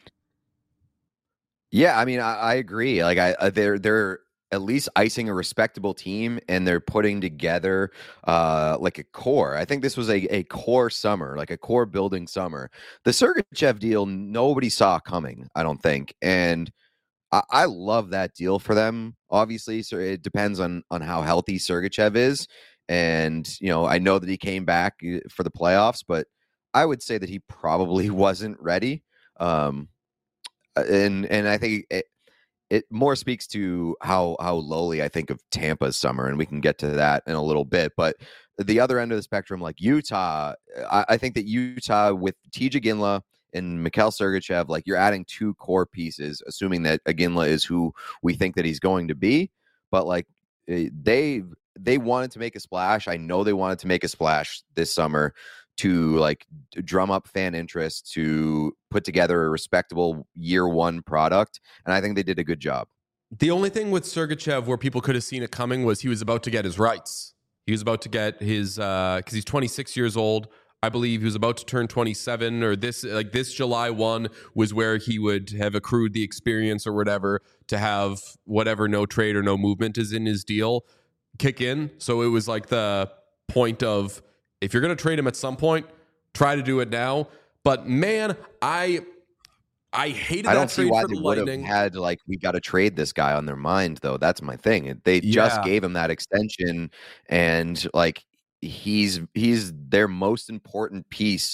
Yeah, I mean, I, I agree. Like, I, I they're they're at least icing a respectable team, and they're putting together uh, like a core. I think this was a, a core summer, like a core building summer. The Sergachev deal, nobody saw coming, I don't think. And I, I love that deal for them. Obviously, so it depends on, on how healthy Sergachev is. And, you know, I know that he came back for the playoffs, but I would say that he probably wasn't ready. Um, and, and I think it, It more speaks to how how lowly I think of Tampa's summer, and we can get to that in a little bit. But the other end of the spectrum, like Utah, I, I think that Utah with T J Ginla and Mikhail Sergachev, like you're adding two core pieces, assuming that Ginla is who we think that he's going to be. But like they they wanted to make a splash. I know they wanted to make a splash this summer to like drum up fan interest, to put together a respectable year one product. And I think they did a good job. The only thing with Sergachev where people could have seen it coming was he was about to get his rights. He was about to get his, uh, cause he's twenty-six years old. I believe he was about to turn twenty-seven, or this, like this July first was where he would have accrued the experience or whatever to have whatever no trade or no movement is in his deal kick in. So it was like the point of, if you're going to trade him at some point, try to do it now. But man, I I hated I that don't trade see why for they the would have Lightning. had like we got to trade this guy on their mind, though. That's my thing. They just Yeah. gave him that extension, and like he's he's their most important piece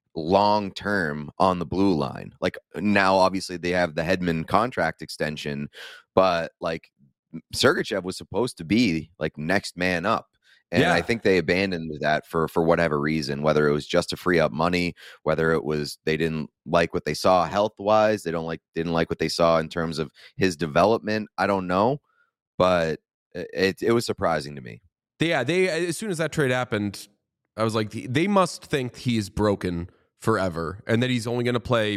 long term on the blue line. Like now, obviously, they have the Hedman contract extension, but like Sergachev was supposed to be like next man up. And Yeah. I think they abandoned that for for whatever reason, whether it was just to free up money, whether it was they didn't like what they saw health wise, they don't like didn't like what they saw in terms of his development. I don't know, but it it was surprising to me. Yeah, they as soon as that trade happened, I was like, they must think he is broken forever and that he's only going to play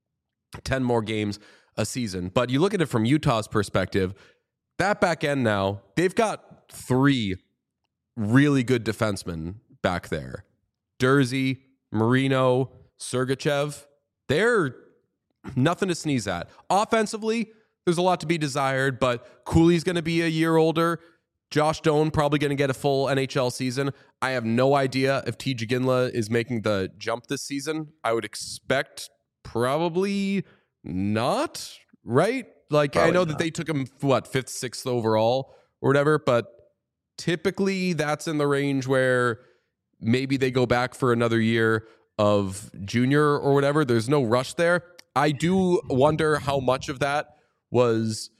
ten more games a season. But you look at it from Utah's perspective, that back end now, they've got three really good defensemen back there. Durzi, Marino, Sergachev. They're nothing to sneeze at. Offensively, there's a lot to be desired, but Cooley's going to be a year older. Josh Doan probably going to get a full N H L season. I have no idea if T. J. Ginla is making the jump this season. I would expect probably not, right? Like, Probably I know not. that they took him, what, fifth, sixth overall or whatever, but typically that's in the range where maybe they go back for another year of junior or whatever. There's no rush there. I do wonder how much of that was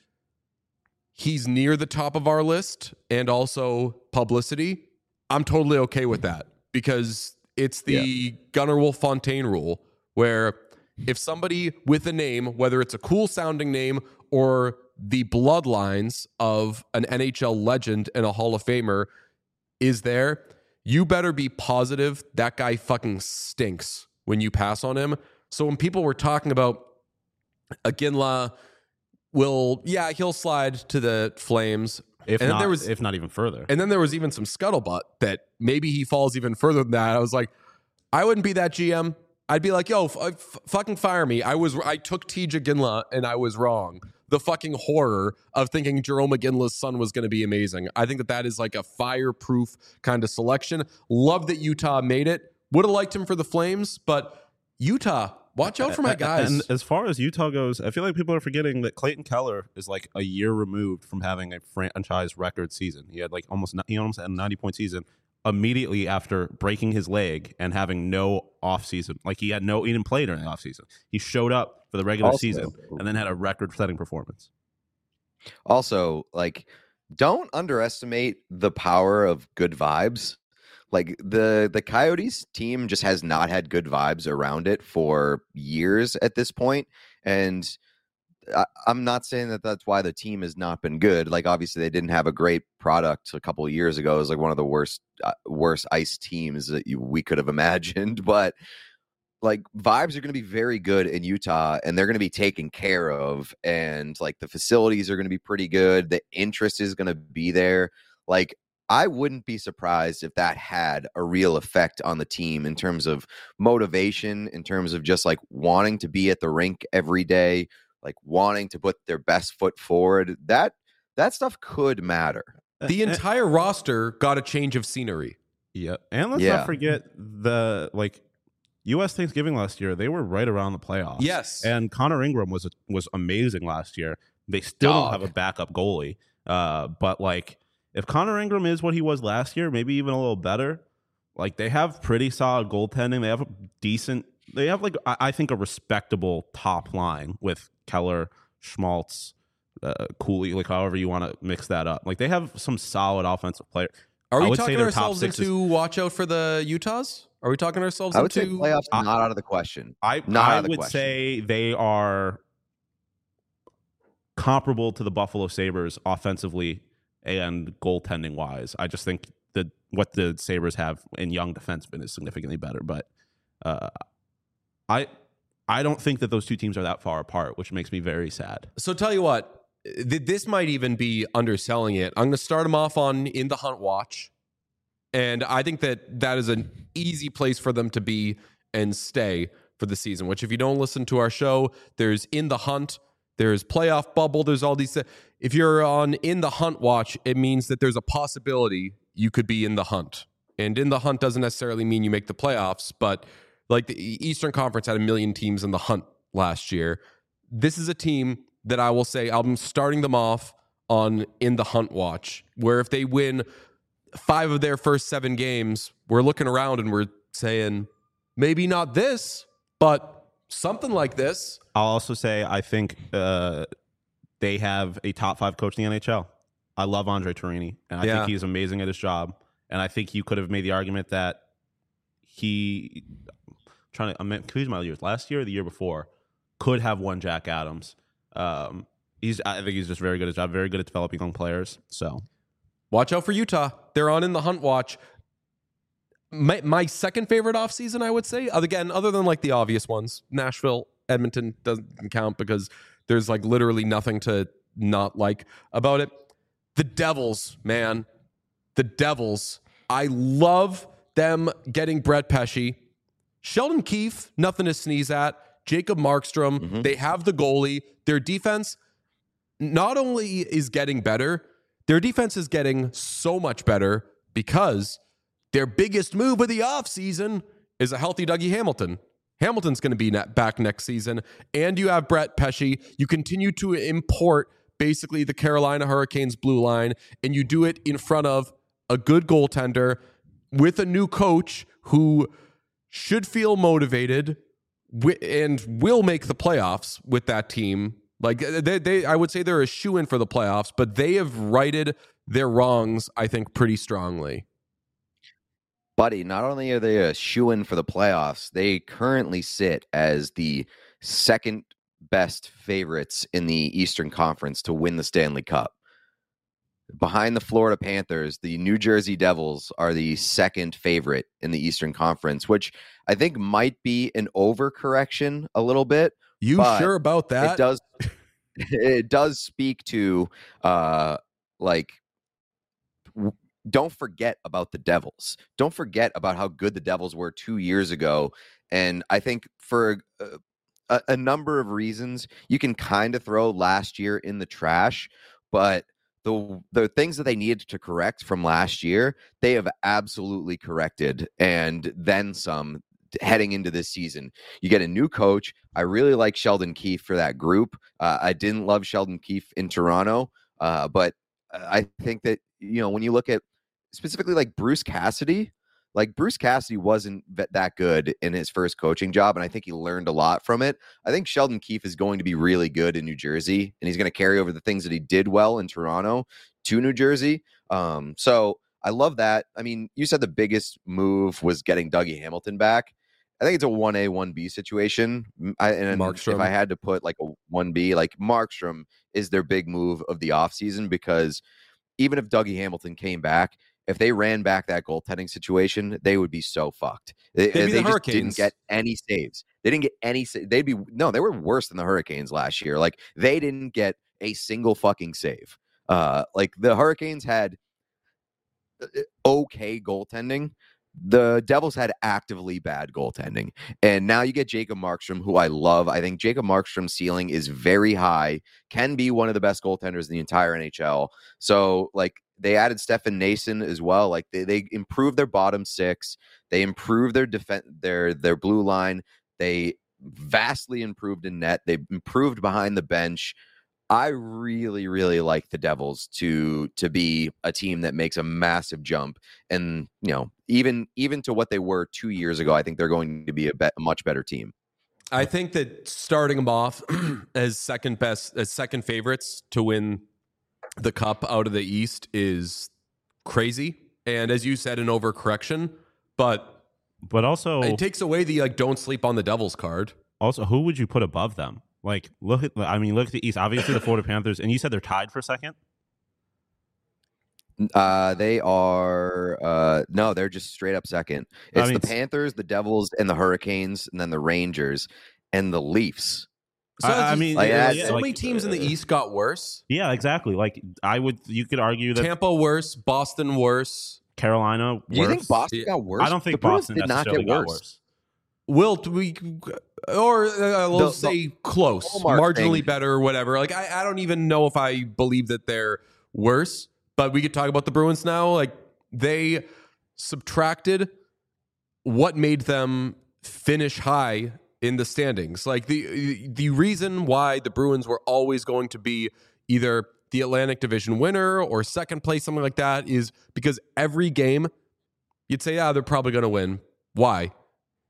he's near the top of our list and also publicity. I'm totally okay with that because it's the yeah. Gunnar Wolf Fontaine rule where if somebody with a name, whether it's a cool sounding name or the bloodlines of an N H L legend and a Hall of Famer is there, you better be positive that guy fucking stinks when you pass on him. So when people were talking about Ginla will, yeah, he'll slide to the Flames. If and not, then there was, if not even further. And then there was even some scuttlebutt that maybe he falls even further than that. I was like, I wouldn't be that G M. I'd be like, yo, f- f- fucking fire me. I was, I took T J. Ginla and I was wrong. The fucking horror of thinking Jerome McGinley's son was going to be amazing. I think that that is like a fireproof kind of selection. Love that Utah made it. Would have liked him for the Flames, but Utah, watch out for my guys. And as far as Utah goes, I feel like people are forgetting that Clayton Keller is like a year removed from having a franchise record season. He had like almost he almost had a ninety point season immediately after breaking his leg and having no offseason. Like he had no, he didn't play during the offseason. He showed up for the regular also, season and then had a record-setting performance. Also, like, don't underestimate the power of good vibes. Like the the Coyotes team just has not had good vibes around it for years at this point, and I, I'm not saying that that's why the team has not been good. Like obviously they didn't have a great product a couple of years ago. It was like one of the worst uh, worst ice teams that you, we could have imagined. But like vibes are going to be very good in Utah, and they're going to be taken care of, and like the facilities are going to be pretty good. The interest is going to be there. Like I wouldn't be surprised if that had a real effect on the team in terms of motivation, in terms of just like wanting to be at the rink every day, like wanting to put their best foot forward. That that stuff could matter. The entire uh, roster got a change of scenery. Yeah. And let's yeah. not forget the like U S Thanksgiving last year, they were right around the playoffs. Yes. And Connor Ingram was was amazing last year. They still Dog. don't have a backup goalie. Uh, but like if Connor Ingram is what he was last year, maybe even a little better, like they have pretty solid goaltending. They have a decent, they have like, I, I think a respectable top line with Keller, Schmaltz, uh, Cooley, like however you want to mix that up. Like they have some solid offensive players. Are I we talking ourselves into is, watch out for the Utahs? Are we talking ourselves I would into? say playoffs I, not out of the question. I, not I out of the would question. say they are comparable to the Buffalo Sabres offensively and goaltending wise. I just think that what the Sabres have in young defensemen is significantly better. But uh, I I don't think that those two teams are that far apart, which makes me very sad. So tell you what, th- this might even be underselling it. I'm going to start them off on In the Hunt watch. And I think that that is an easy place for them to be and stay for the season, which if you don't listen to our show, there's In the Hunt, there's Playoff Bubble, there's all these. If you're on In the Hunt watch, it means that there's a possibility you could be in the hunt. And in the hunt doesn't necessarily mean you make the playoffs, but like the Eastern Conference had a million teams in the hunt last year. This is a team that I will say I'm starting them off on In the Hunt watch, where if they win five of their first seven games, we're looking around and we're saying Maybe not this, but something like this. I'll also say I think uh, they have a top five coach in the N H L. I love Andre Torini, and I Yeah. think he's amazing at his job. And I think you could have made the argument that he, I'm trying to, I'm confused my years, last year or the year before, could have won Jack Adams. Um, he's, I think he's just very good at his job, very good at developing young players. So Watch out for Utah. They're on in the hunt watch. My, my second favorite offseason, I would say, again, other than like the obvious ones, Nashville, Edmonton doesn't count because there's like literally nothing to not like about it. The Devils, man. The Devils. I love them getting Brett Pesce. Sheldon Keefe, nothing to sneeze at. Jacob Markstrom, Mm-hmm. they have the goalie. Their defense not only is getting better, their defense is getting so much better because their biggest move of the offseason is a healthy Dougie Hamilton. Hamilton's going to be net back next season, and you have Brett Pesce. You continue to import basically the Carolina Hurricanes blue line, and you do it in front of a good goaltender with a new coach who should feel motivated wi- and will make the playoffs with that team. Like they, they, I would say they're a shoe-in for the playoffs, but they have righted their wrongs, I think, pretty strongly. Buddy, not only are they a shoe-in for the playoffs, they currently sit as the second best favorites in the Eastern Conference to win the Stanley Cup. Behind the Florida Panthers, the New Jersey Devils are the second favorite in the Eastern Conference, which I think might be an overcorrection a little bit. You But sure about that? It does it does speak to uh like w- don't forget about the Devils. Don't forget about how good the Devils were two years ago. And I think for a, a, a number of reasons, you can kind of throw last year in the trash, but the the things that they needed to correct from last year, they have absolutely corrected, and then some heading into this season. You get a new coach. I really like Sheldon Keefe for that group. Uh, I didn't love Sheldon Keefe in Toronto, uh, but I think that, you know, when you look at specifically like Bruce Cassidy, like Bruce Cassidy wasn't that good in his first coaching job, and I think he learned a lot from it. I think Sheldon Keefe is going to be really good in New Jersey, and he's going to carry over the things that he did well in Toronto to New Jersey. Um, so I love that. I mean, you said the biggest move was getting Dougie Hamilton back. I think it's a one A, one B situation. I, and Markstrom. if I had to put like a one B, like Markstrom is their big move of the offseason, because even if Dougie Hamilton came back, if they ran back that goaltending situation, they would be so fucked. They, They'd be they the just didn't Hurricanes. get any saves. They didn't get any. sa- They'd be no. They were worse than the Hurricanes last year. Like they didn't get a single fucking save. Uh, like the Hurricanes had uh, okay goaltending. The Devils had actively bad goaltending. And now you get Jacob Markstrom, who I love. I think Jacob Markstrom's ceiling is very high, can be one of the best goaltenders in the entire N H L. So, like, they added Stefan Nason as well. Like, they, they improved their bottom six. They improved their defense, their their blue line. They vastly improved in net. They improved behind the bench. I really, really like the Devils to to be a team that makes a massive jump, and you know, even even to what they were two years ago, I think they're going to be a, bet, a much better team. I think that starting them off as second best, as second favorites to win the cup out of the East is crazy, and as you said, an overcorrection. But But also, it takes away the like "don't sleep on the Devils" card. also, who would you put above them? Like, look at, I mean, look at the East. Obviously, the Florida Panthers, and you said they're tied for second. Uh, they are uh, no, they're just straight up second. It's I mean, the Panthers, the Devils, and the Hurricanes, and then the Rangers and the Leafs. So I- I it's- mean, Like, yeah, yeah, so like, many teams in the East got worse. Yeah, exactly. Like, I would, you could argue that Tampa worse, Boston worse. Carolina. Do you think worse. Boston got worse? I don't think the Bruins Boston did not necessarily get got worse. worse. Will do we, or uh, we'll The- the say close, hallmark marginally thing- better, or whatever. Like I, I don't even know if I believe that they're worse, but we could talk about the Bruins now. Like they subtracted what made them finish high in the standings. Like the the reason why the Bruins were always going to be either the Atlantic Division winner or second place, something like that, is because every game you'd say, yeah, they're probably going to win. Why?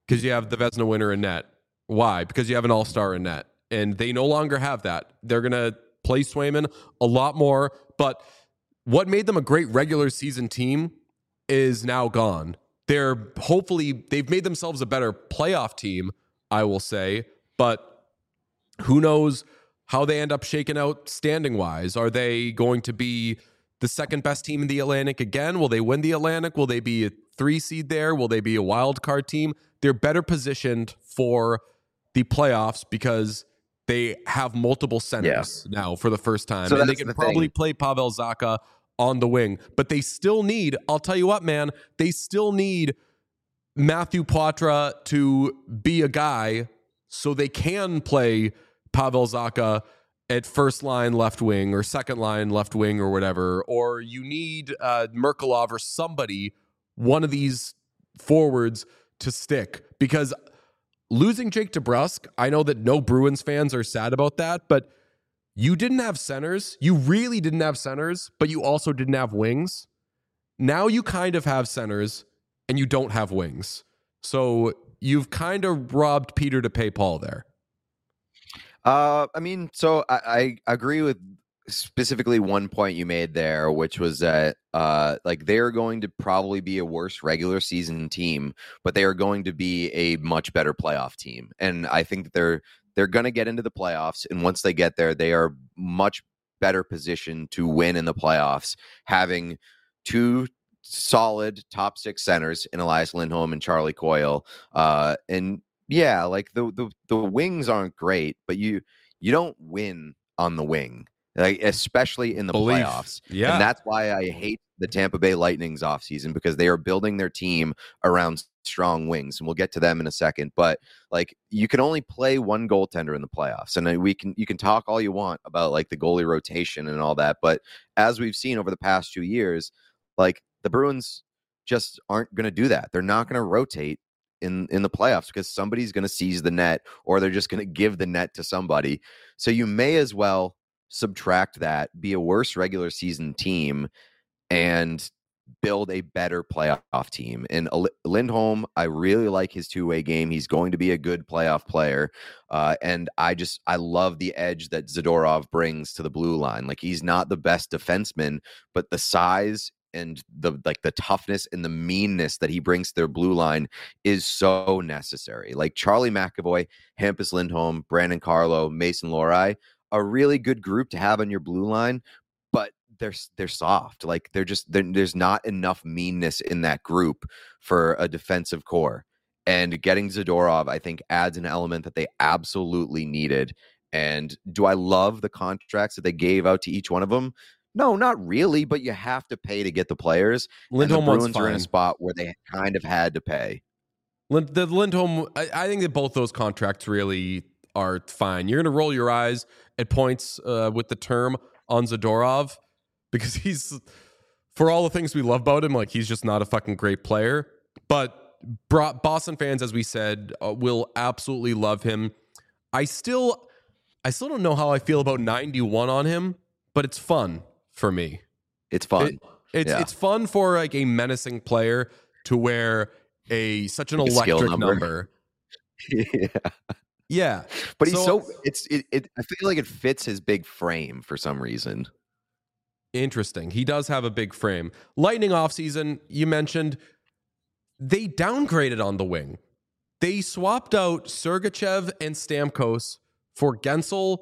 Because you have the Vezina winner in net. Why? Because you have an all-star in net. And they no longer have that. They're going to play Swayman a lot more. But what made them a great regular season team is now gone. They're hopefully, they've made themselves a better playoff team, I will say. But who knows how they end up shaking out standing-wise. Are they going to be the second best team in the Atlantic again? Will they win the Atlantic? Will they be a three seed there? Will they be a wild card team? They're better positioned for the playoffs because they have multiple centers yeah. now for the first time. So and they can the probably thing. play Pavel Zacha on the wing. But they still need, I'll tell you what, man, they still need Matthew Poitras to be a guy so they can play Pavel Zacha at first line left wing or second line left wing or whatever. Or you need uh, Merkulov or somebody, one of these forwards to stick. Because losing Jake DeBrusk, I know that no Bruins fans are sad about that, but you didn't have centers. You really didn't have centers, but you also didn't have wings. Now you kind of have centers and you don't have wings. So you've kind of robbed Peter to pay Paul there. Uh, I mean, so I, I agree with specifically one point you made there, which was that uh, like they're going to probably be a worse regular season team, but they are going to be a much better playoff team. And I think that they're they're going to get into the playoffs, and once they get there, they are much better positioned to win in the playoffs, having two solid top six centers in Elias Lindholm and Charlie Coyle, uh, and yeah, like the, the the wings aren't great, but you you don't win on the wing, like especially in the Belief. playoffs. Yeah, and that's why I hate the Tampa Bay Lightning's offseason, because they are building their team around strong wings, and we'll get to them in a second. But like, you can only play one goaltender in the playoffs, and we can you can talk all you want about like the goalie rotation and all that, but as we've seen over the past two years, like the Bruins just aren't going to do that. They're not going to rotate in in the playoffs because somebody's going to seize the net, or they're just going to give the net to somebody. So you may as well subtract that, be a worse regular season team, and build a better playoff team. And Lindholm, I really like his two-way game. He's going to be a good playoff player. Uh, and I just, I love the edge that Zadorov brings to the blue line. Like, he's not the best defenseman, but the size and the like the toughness and the meanness that he brings to their blue line is so necessary. Like Charlie McAvoy, Hampus Lindholm, Brandon Carlo, Mason Lohrei, a really good group to have on your blue line, but they're they're soft. Like they're just they're, there's not enough meanness in that group for a defensive core. And getting Zadorov, I think, adds an element that they absolutely needed. And do I love the contracts that they gave out to each one of them? No, not really, but you have to pay to get the players. Lindholm, and the Bruins are in a spot where they kind of had to pay. Lind, the Lindholm, I, I think that both those contracts really are fine. You're going to roll your eyes at points uh, with the term on Zadorov because he's, for all the things we love about him, like he's just not a fucking great player. But Boston fans, as we said, uh, will absolutely love him. I still, I still don't know how I feel about ninety-one on him, but it's fun. For me, it's fun. It, it's yeah. it's fun for like a menacing player to wear a such an electric number. number. yeah, yeah. But he's so, so it's it, it. I feel like it fits his big frame for some reason. Interesting. He does have a big frame. Lightning offseason, you mentioned they downgraded on the wing. They swapped out Sergachev and Stamkos for Gensel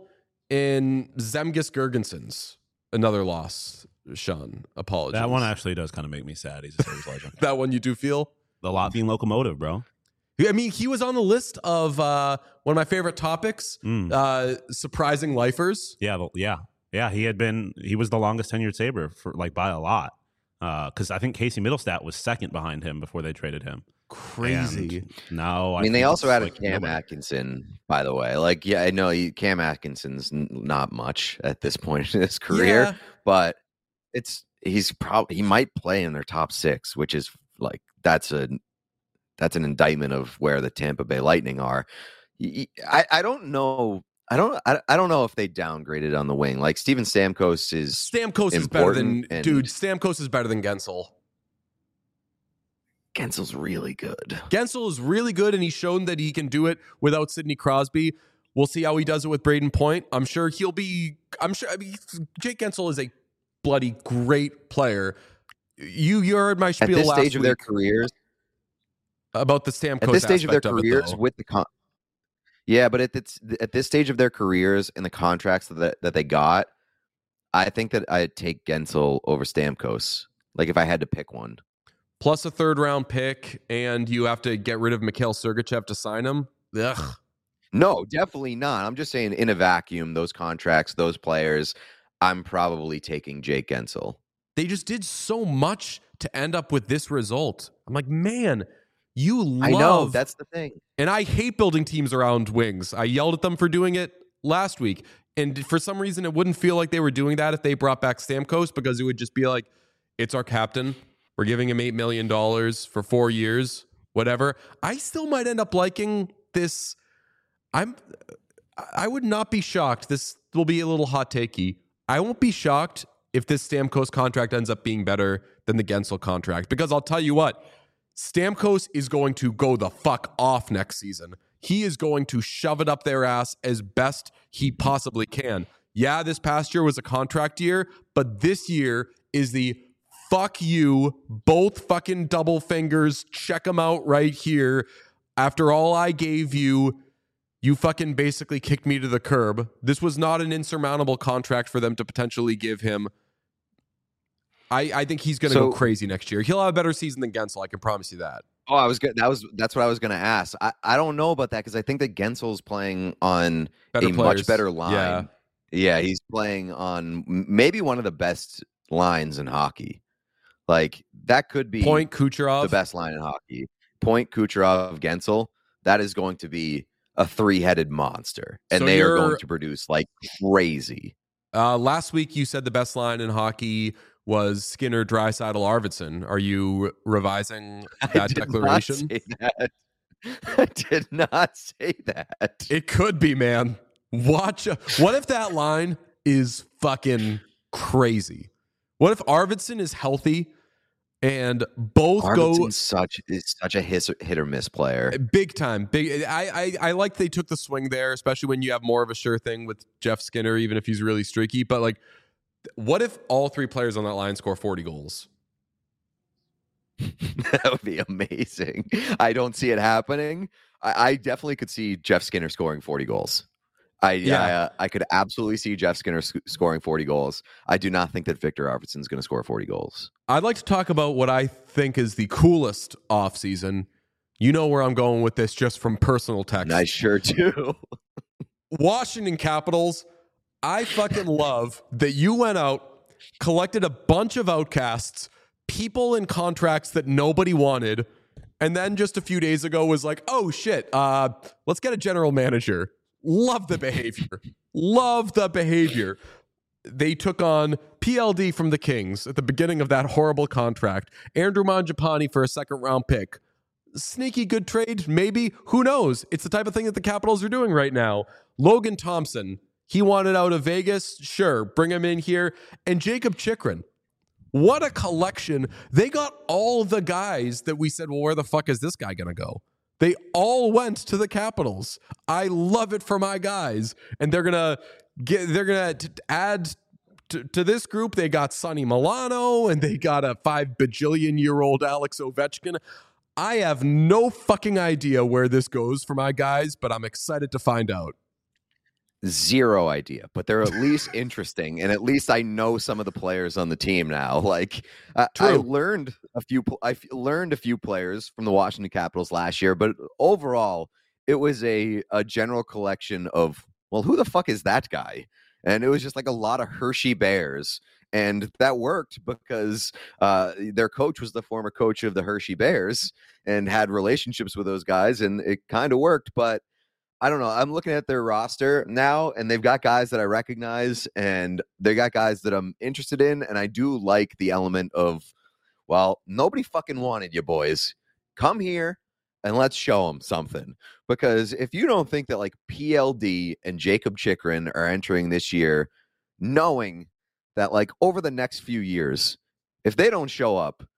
and Zemgus Girgensons. Another loss, Sean. Apologies. That one actually does kind of make me sad. He's a Sabres legend. That one you do feel? The Latvian locomotive, bro. I mean, he was on the list of uh, one of my favorite topics, mm. uh, surprising lifers. Yeah, yeah, yeah. He had been, he was the longest tenured Sabre for like by a lot. Because uh, I think Casey Middlestat was second behind him before they traded him. Crazy. And no, I mean, I they also added like Cam nobody. Atkinson, by the way. Like, yeah, I know he, Cam Atkinson's not much at this point in his career, yeah. but it's he's probably he might play in their top six, which is like that's a that's an indictment of where the Tampa Bay Lightning are. I, I don't know. I don't. I, I don't know if they downgraded on the wing. Like Steven Stamkos is Stamkos is better than dude. Stamkos is better than Gensel. Gensel's really good. Guentzel is really good, and he's shown that he can do it without Sidney Crosby. We'll see how he does it with Braden Point. I'm sure he'll be. I'm sure. I mean, Jake Guentzel is a bloody great player. You you heard my spiel at this last stage of week their careers. About the Stamkos At this stage of their aspect careers, it, with the con- yeah, but at this, at this stage of their careers and the contracts that that they got, I think that I'd take Guentzel over Stamkos. Like if I had to pick one. Plus a third round pick, and you have to get rid of Mikhail Sergachev to sign him. Ugh. No, definitely not. I'm just saying in a vacuum, those contracts, those players, I'm probably taking Jake Guentzel. They just did so much to end up with this result. I'm like, man, you love... I know, that's the thing. And I hate building teams around wings. I yelled at them for doing it last week. And for some reason, it wouldn't feel like they were doing that if they brought back Stamkos, because it would just be like, it's our captain. We're giving him eight million dollars for four years, whatever. I still might end up liking this. I'm, I would not be shocked. This will be a little hot takey. I won't be shocked if this Stamkos contract ends up being better than the Guentzel contract, because I'll tell you what, Stamkos is going to go the fuck off next season. He is going to shove it up their ass as best he possibly can. Yeah, this past year was a contract year, but this year is the fuck you, both fucking double fingers, check them out right here. After all I gave you, you fucking basically kicked me to the curb. This was not an insurmountable contract for them to potentially give him. I, I think he's going to so, go crazy next year. He'll have a better season than Guentzel, I can promise you that. Oh, I was good. That was that's what I was going to ask. I, I don't know about that because I think that Gensel's playing on Better a players. much better line. Yeah. yeah, he's playing on maybe one of the best lines in hockey. Like that could be Point Kucherov, the best line in hockey. Point Kucherov, Guentzel. That is going to be a three-headed monster, and So they are you're- going to produce like crazy. Uh, last week you said the best line in hockey was Skinner, Draisaitl, Arvidsson. Are you revising that I did declaration? Not say that. I did not say that. It could be, man. Watch. What if that line is fucking crazy? What if Arvidsson is healthy and both Arvidsson's go such is such a hit, hit or miss player. big time? Big. I, I I like they took the swing there, especially when you have more of a sure thing with Jeff Skinner, even if he's really streaky. But like, what if all three players on that line score forty goals? That would be amazing. I don't see it happening. I, I definitely could see Jeff Skinner scoring forty goals. I Yeah. I, uh, I could absolutely see Jeff Skinner sc- scoring forty goals. I do not think that Victor Arvidsson is going to score forty goals. I'd like to talk about what I think is the coolest offseason. You know where I'm going with this just from personal text. And I sure do. Washington Capitals, I fucking love that you went out, collected a bunch of outcasts, people in contracts that nobody wanted, and then just a few days ago was like, oh shit, uh, let's get a general manager. Love the behavior. Love the behavior. They took on P L D from the Kings at the beginning of that horrible contract. Andrew Mangiapane for a second round pick. Sneaky good trade, maybe. Who knows? It's the type of thing that the Capitals are doing right now. Logan Thompson, he wanted out of Vegas. Sure, bring him in here. And Jacob Chikrin. What a collection. They got all the guys that we said, well, where the fuck is this guy going to go? They all went to the Capitals. I love it for my guys. And they're going to get, they're going to add to, to this group. They got Sonny Milano and they got a five bajillion year old Alex Ovechkin. I have no fucking idea where this goes for my guys, but I'm excited to find out. Zero idea, but they're at least interesting, and at least I know some of the players on the team now. Like I, I learned a few, I f- learned a few players from the Washington Capitals last year, but overall, it was a a general collection of, well, who the fuck is that guy? And it was just like a lot of Hershey Bears, and that worked because uh, their coach was the former coach of the Hershey Bears and had relationships with those guys, and it kind of worked, but. I don't know. I'm looking at their roster now, and they've got guys that I recognize, and they got guys that I'm interested in, and I do like the element of, well, nobody fucking wanted you, boys. Come here, and let's show them something. Because if you don't think that, like, P L D and Jacob Chikrin are entering this year, knowing that, like, over the next few years, if they don't show up,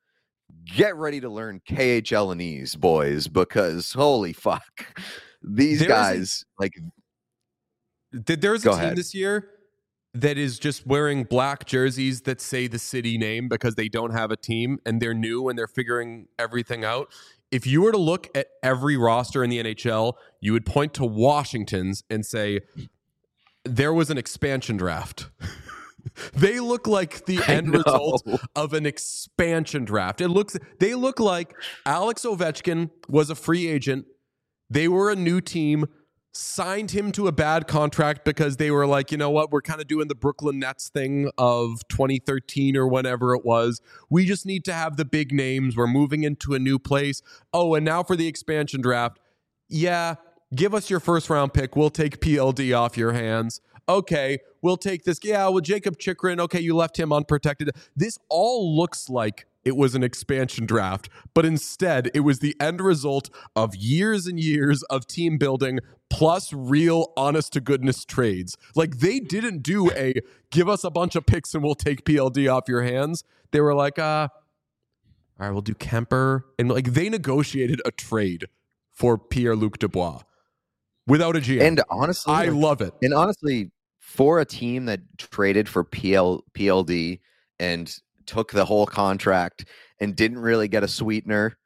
get ready to learn K H L and E's, boys, because holy fuck, these There's guys a, like. There's a Go team ahead. this year that is just wearing black jerseys that say the city name because they don't have a team and they're new and they're figuring everything out. If you were to look at every roster in the N H L, you would point to Washington's and say there was an expansion draft. They look like the I end know. result of an expansion draft. It looks they look like Alex Ovechkin was a free agent. They were a new team, signed him to a bad contract because they were like, you know what, we're kind of doing the Brooklyn Nets thing of twenty thirteen or whenever it was. We just need to have the big names. We're moving into a new place. Oh, and now for the expansion draft. Yeah, give us your first round pick. We'll take P L D off your hands. Okay, we'll take this. Yeah, well, Jacob Chikrin, okay, you left him unprotected. This all looks like it was an expansion draft, but instead it was the end result of years and years of team building plus real honest to goodness trades. Like they didn't do a give us a bunch of picks and we'll take P L D off your hands. They were like, uh, all right, we'll do Kemper. And like they negotiated a trade for Pierre-Luc Dubois without a G M. And honestly, I like, love it. And honestly, for a team that traded for P L, P L D and took the whole contract and didn't really get a sweetener,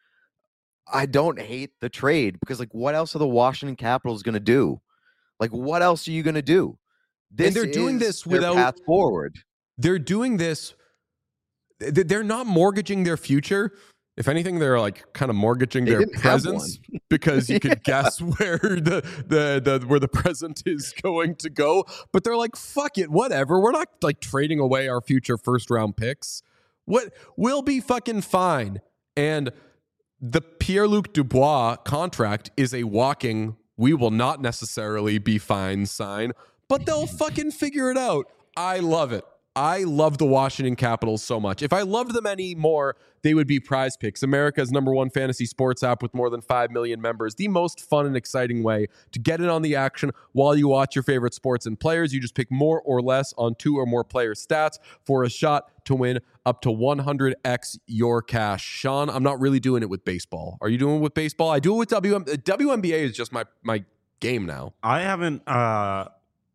I don't hate the trade because, like, what else are the Washington Capitals going to do? Like, what else are you going to do? This And they're doing is this their without path forward. They're doing this. They're not mortgaging their future. If anything, they're like kind of mortgaging They their didn't have presence one. because you Yeah. could guess where the, the the where the present is going to go. But they're like, fuck it, whatever. We're not like trading away our future first round picks. What we'll be fucking fine. And the Pierre-Luc Dubois contract is a walking, we will not necessarily be fine sign, but they'll fucking figure it out. I love it. I love the Washington Capitals so much. If I loved them any more, they would be Prize Picks, America's number one fantasy sports app with more than five million members. The most fun and exciting way to get in on the action while you watch your favorite sports and players. You just pick more or less on two or more player stats for a shot to win up to one hundred x your cash. Sean, I'm not really doing it with baseball. Are you doing it with baseball? I do it with W M. W N B A is just my, my game now. I haven't. Uh,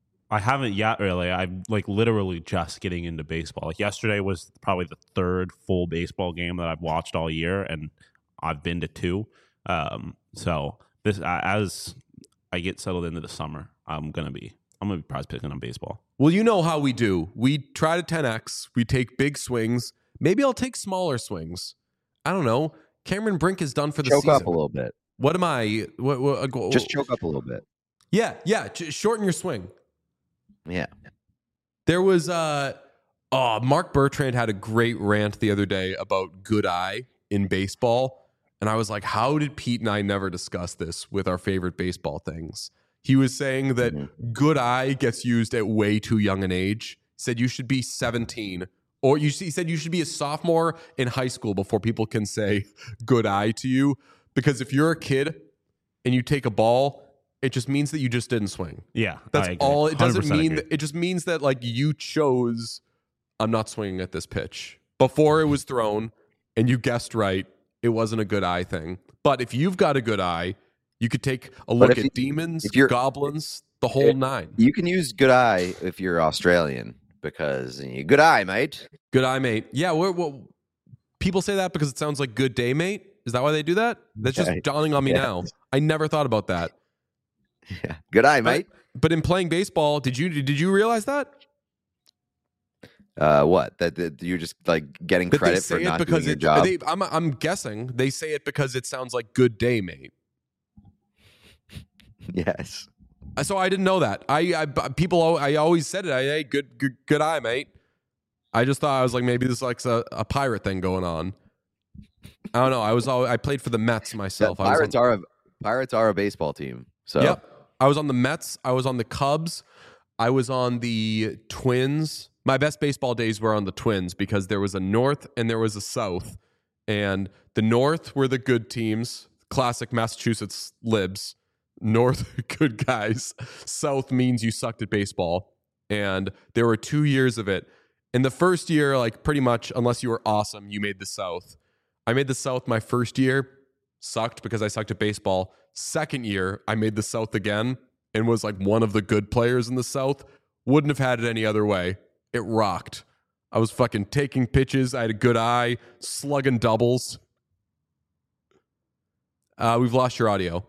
I haven't yet. Really, I'm like literally just getting into baseball. Like yesterday was probably the third full baseball game that I've watched all year, and I've been to two. Um, so this, as I get settled into the summer, I'm gonna be. I'm gonna be prize picking on baseball. Well, you know how we do. We try to ten x. We take big swings. Maybe I'll take smaller swings. I don't know. Cameron Brink is done for the Choke season. up a little bit. What am I? What, what, what, Just choke up a little bit. Yeah, yeah. J- shorten your swing. Yeah. There was uh oh, Mark Bertrand had a great rant the other day about good eye in baseball. And I was like, how did Pete and I never discuss this with our favorite baseball things? He was saying that Mm-hmm. good eye gets used at way too young an age. He said you should be seventeen. Or you he said you should be a sophomore in high school before people can say good eye to you. Because if you're a kid and you take a ball, it just means that you just didn't swing. Yeah, That's I agree. all. It doesn't one hundred percent mean agree. that, it just means that like you chose I'm not swinging at this pitch before it was thrown and you guessed right. It wasn't a good eye thing. But if you've got a good eye, you could take a look if at you- demons, if you're- goblins, the whole if- nine. You can use good eye if you're Australian because eh, good eye, mate. Good eye, mate. Yeah, we're, well, people say that because it sounds like good day, mate. Is that why they do that? That's just Yeah. dawning on me Yeah. now. I never thought about that. Yeah. Good eye, But, mate. but in playing baseball, did you did you realize that? Uh, what? That, that you're just like getting That they credit say for it not because doing your it, job. They, I'm I'm guessing they say it because it sounds like good day, mate. Yes. So I didn't know that. I, I people al- I always said it. I hey, good good good eye, mate. I just thought I was like maybe this is like a, a pirate thing going on. I don't know. I was all I played for the Mets myself. The I was Pirates on, are a Pirates are a baseball team. So Yep. I was on the Mets. I was on the Cubs. I was on the Twins. My best baseball days were on the Twins because there was a North and there was a South. And the North were the good teams, classic Massachusetts libs. North, good guys. South means you sucked at baseball. And there were two years of it. In the first year, like pretty much, unless you were awesome, you made the South. I made the South my first year, sucked because I sucked at baseball. Second year, I made the South again and was like one of the good players in the South. Wouldn't have had it any other way. It rocked. I was fucking taking pitches. I had a good eye, slugging doubles. Uh, we've lost your audio.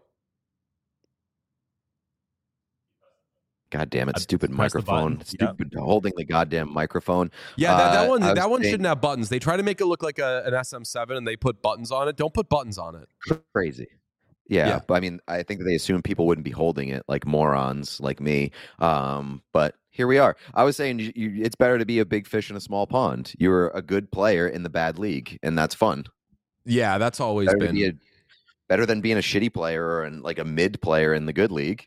God damn it, I stupid pressed the microphone. button. Stupid holding the goddamn microphone. Yeah, that, that Uh, one I was that one saying- shouldn't have buttons. They try to make it look like a, an S M seven and they put buttons on it. Don't put buttons on it. Crazy. Yeah, Yeah. but I mean, I think that they assume people wouldn't be holding it like morons like me. Um, but here we are. I was saying you, you, it's better to be a big fish in a small pond. You're a good player in the bad league, and that's fun. Yeah, that's always Better, to been. be a, better than being a shitty player or an, like a mid player in the good league.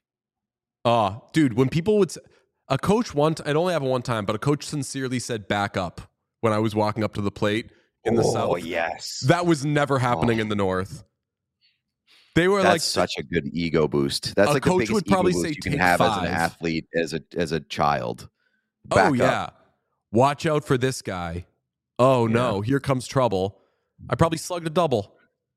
Oh, dude, when people would, s- a coach one, t- it only happened one time, but a coach sincerely said back up when I was walking up to the plate in the oh, South. yes. That was never happening Oh. in the North. They were That's like, such a good ego boost. That's A like the coach biggest would ego probably boost say, you can "Take have as five." an athlete, as a as a child. oh, Back yeah, up. watch out for this guy. Oh, no, here comes trouble. I probably slugged a double.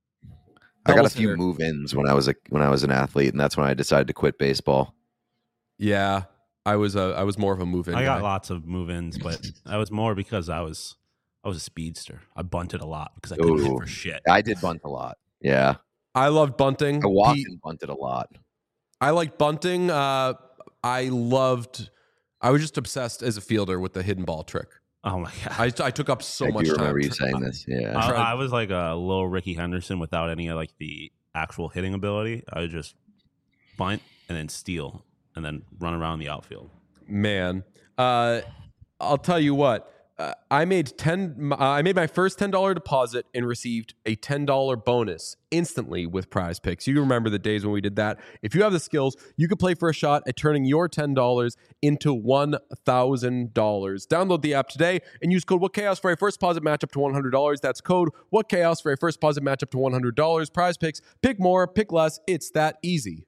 I got a Doubles few hitter. move-ins when I was a when I was an athlete, and that's when I decided to quit baseball. Yeah, I was a, I was more of a move in. I got guy. lots of move-ins, but that was more because I was I was a speedster. I bunted a lot because I couldn't hit Ooh. for shit. I did bunt a lot. Yeah, I loved bunting. I walked Pete, and bunted a lot. I liked bunting. Uh, I loved. I was just obsessed as a fielder with the hidden ball trick. Oh my god! I, I took up so I much do time. remember you tr- saying this. Yeah, I, tried- I was like a little Ricky Henderson without any of like the actual hitting ability. I would just bunt and then steal and then run around the outfield. Man, uh, I'll tell you what. Uh, I made ten. Uh, I made my first ten dollar deposit and received a ten dollar bonus instantly with Prize Picks. You remember the days when we did that? If you have the skills, you could play for a shot at turning your ten dollars into one thousand dollars. Download the app today and use code WhatChaos for a first deposit match up to one hundred dollars. That's code WhatChaos for a first deposit match up to one hundred dollars. Prize Picks. Pick more, pick less. It's that easy.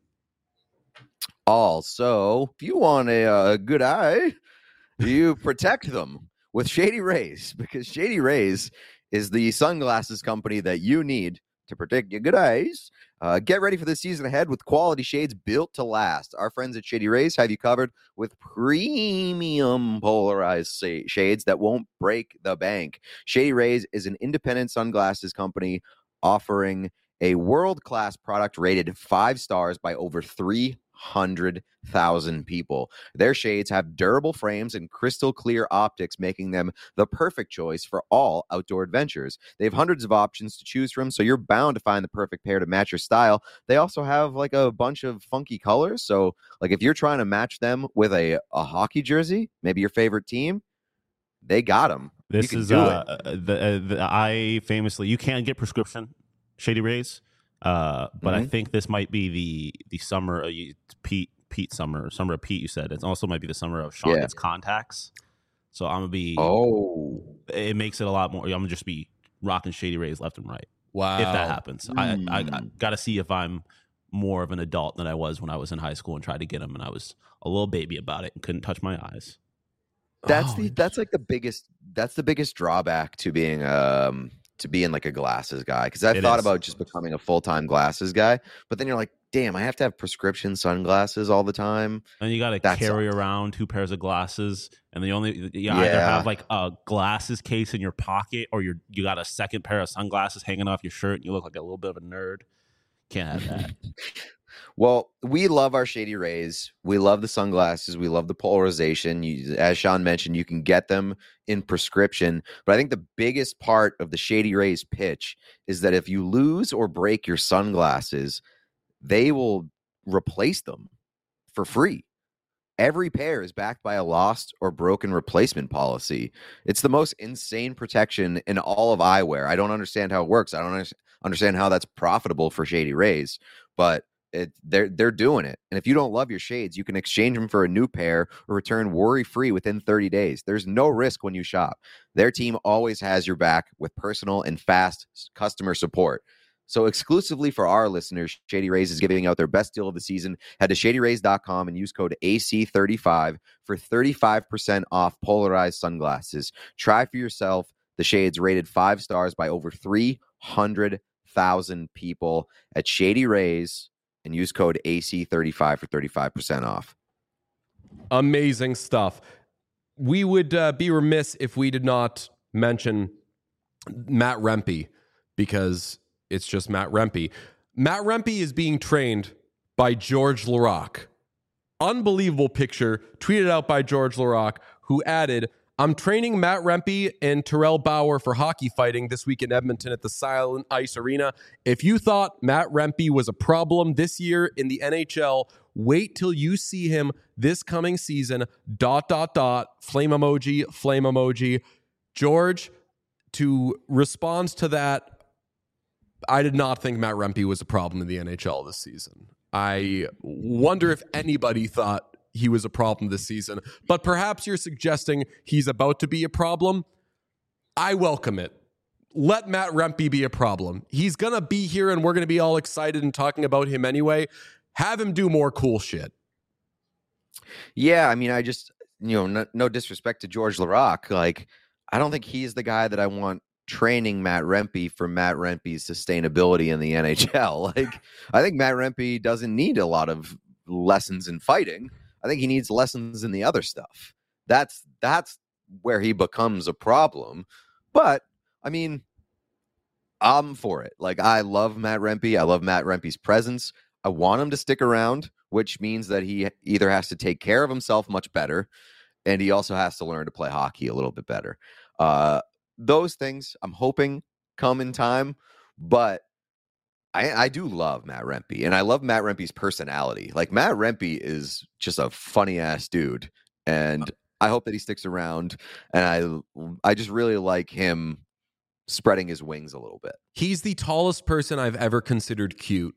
Also, if you want a, uh good eye, you protect them with Shady Rays, because Shady Rays is the sunglasses company that you need to protect your good eyes. Uh, get ready for the season ahead with quality shades built to last. Our friends at Shady Rays have you covered with premium polarized sa- shades that won't break the bank. Shady Rays is an independent sunglasses company offering a world-class product rated five stars by over three hundred thousand people. Their shades have durable frames and crystal clear optics, making them the perfect choice for all outdoor adventures. They have hundreds of options to choose from, so you're bound to find the perfect pair to match your style. They also have like a bunch of funky colors, so like if you're trying to match them with a, a hockey jersey, maybe your favorite team, they got them. This you can is do uh, it. the, uh, the I famously you can get prescription Shady Rays, uh, but I Mhm. think this might be the the summer uh, you- Pete Pete summer summer of Pete. You said it also might be the summer of Sean Yeah. gets contacts. So I'm gonna be. Oh, It makes it a lot more. I'm gonna just be rocking Shady Rays left and right Wow. if that happens. I, I, I Mm. got to see if I'm more of an adult than I was when I was in high school and tried to get them, and I was a little baby about it and couldn't touch my eyes. that's Oh, the that's like the biggest that's the biggest drawback to being um to being like a glasses guy, because I It thought is. about just becoming a full-time glasses guy, but then you're like, damn, I have to have prescription sunglasses all the time. And you got to That carry sucks. around two pairs of glasses, and the only you either Yeah. have like a glasses case in your pocket, or you're you got a second pair of sunglasses hanging off your shirt, and you look like a little bit of a nerd. Can't have that. Well, we love our Shady Rays. We love the sunglasses. We love the polarization. You, as Sean mentioned, you can get them in prescription. But I think the biggest part of the Shady Rays pitch is that if you lose or break your sunglasses, they will replace them for free. Every pair is backed by a lost or broken replacement policy. It's the most insane protection in all of eyewear. I don't understand how it works. I don't under- understand how that's profitable for Shady Rays, but it, they're they're doing it. And if you don't love your shades, you can exchange them for a new pair or return worry-free within thirty days. There's no risk when you shop. Their team always has your back with personal and fast customer support. So exclusively for our listeners, Shady Rays is giving out their best deal of the season. Head to shady rays dot com and use code A C thirty-five for thirty-five percent off polarized sunglasses. Try for yourself the shades rated five stars by over three hundred thousand people at Shady Rays and use code A C thirty-five for thirty-five percent off. Amazing stuff. We would uh, be remiss if we did not mention Matt Rempe, because it's just Matt Rempe. Matt Rempe is being trained by George Laraque. Unbelievable picture tweeted out by George Laraque, who added, I'm training Matt Rempe and Terrell Bauer for hockey fighting this week in Edmonton at the Silent Ice Arena. If you thought Matt Rempe was a problem this year in the N H L, wait till you see him this coming season. Dot, dot, dot, flame emoji, flame emoji. George, to respond to that, I did not think Matt Rempe was a problem in the N H L this season. I wonder if anybody thought he was a problem this season, but perhaps you're suggesting he's about to be a problem. I welcome it. Let Matt Rempe be a problem. He's going to be here and we're going to be all excited and talking about him anyway. Have him do more cool shit. Yeah, I mean, I just, you know, no, no disrespect to George Laraque. Like, I don't think he's the guy that I want training Matt Rempe for Matt Rempe's sustainability in the N H L. Like, I think Matt Rempe doesn't need a lot of lessons in fighting. I think he needs lessons in the other stuff. That's that's where he becomes a problem. But I mean, I'm for it. Like, I love Matt Rempe. I love Matt Rempe's presence. I want him to stick around, which means that he either has to take care of himself much better, and he also has to learn to play hockey a little bit better. Uh, those things I'm hoping come in time, but I, I do love Matt Rempe, and I love Matt Rempe's personality. Like, Matt Rempe is just a funny ass dude, and I hope that he sticks around. And I, I just really like him spreading his wings a little bit. He's the tallest person I've ever considered cute.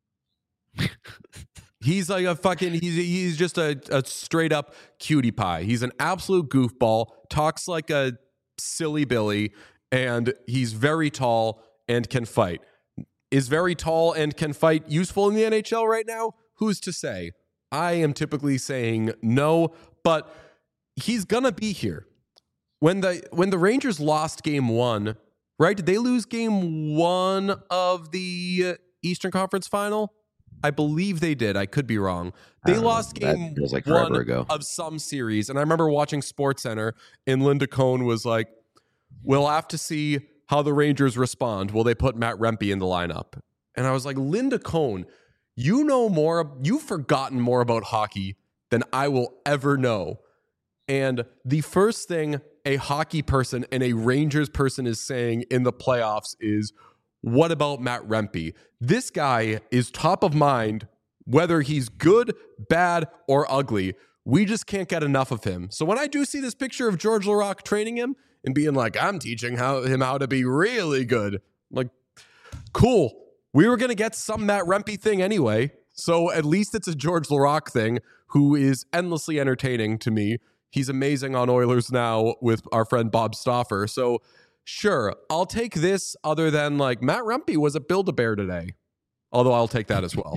He's like a fucking, he's he's just a, a straight up cutie pie. He's an absolute goofball, talks like a silly Billy, and he's very tall and can fight. Is very tall and can fight useful in the N H L right now? Who's to say? I am typically saying no, but he's gonna be here. When the when the Rangers lost game one, right? Did they lose game one of the Eastern Conference Final? I believe they did. I could be wrong. They lost know. game feels like one forever ago. of some series. And I remember watching SportsCenter, and Linda Cohn was like, we'll have to see how the Rangers respond. Will they put Matt Rempe in the lineup? And I was like, Linda Cohn, you know more, you've forgotten more about hockey than I will ever know. And the first thing a hockey person and a Rangers person is saying in the playoffs is, what about Matt Rempe? This guy is top of mind, whether he's good, bad, or ugly. We just can't get enough of him. So when I do see this picture of George Laraque training him and being like, I'm teaching how, him how to be really good, I'm like, cool. We were going to get some Matt Rempe thing anyway. So at least it's a George Laraque thing, who is endlessly entertaining to me. He's amazing on Oilers Now with our friend Bob Stauffer. So sure, I'll take this, other than like Matt Rempe was a Build-A-Bear today. Although I'll take that as well.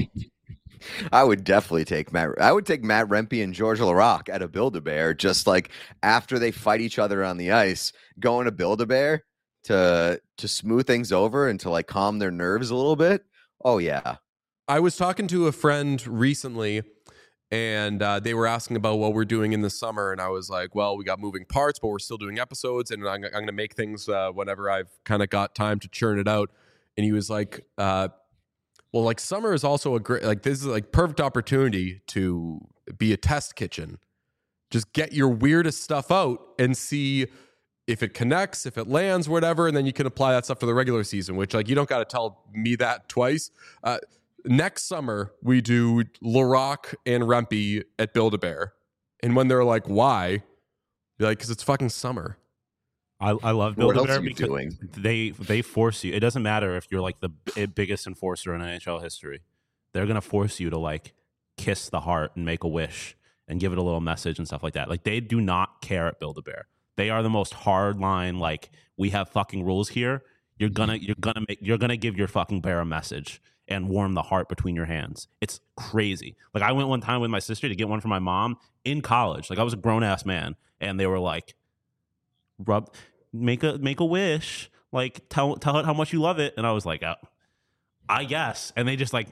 I would definitely take Matt. I would take Matt Rempe and George Laraque at a Build-A-Bear, just like after they fight each other on the ice, going to Build-A-Bear to to smooth things over and to like calm their nerves a little bit. Oh yeah. I was talking to a friend recently, and uh, they were asking about what we're doing in the summer. And I was like, well, we got moving parts, but we're still doing episodes. And I'm, I'm going to make things uh, whenever I've kind of got time to churn it out. And he was like, uh, well, like summer is also a great, like this is like perfect opportunity to be a test kitchen. Just get your weirdest stuff out and see if it connects, if it lands, whatever. And then you can apply that stuff to the regular season, which like, you don't got to tell me that twice. Uh, Next summer, we do Laraque and Rempe at Build-A-Bear. And when they're like, why? Be like, because it's fucking summer. I, I love What Build-A-Bear else are you because doing? they they force you. It doesn't matter if you're like the b- biggest enforcer in N H L history. They're gonna force you to like kiss the heart and make a wish and give it a little message and stuff like that. Like, they do not care at Build-A-Bear. They are the most hard line. Like, we have fucking rules here. You're gonna you're gonna make you're gonna give your fucking bear a message and warm the heart between your hands. It's crazy. Like, I went one time with my sister to get one for my mom in college. Like, I was a grown ass man, and they were like, "Rub, make a make a wish, Like, tell tell it how much you love it. And I was like, oh, I guess. And they just like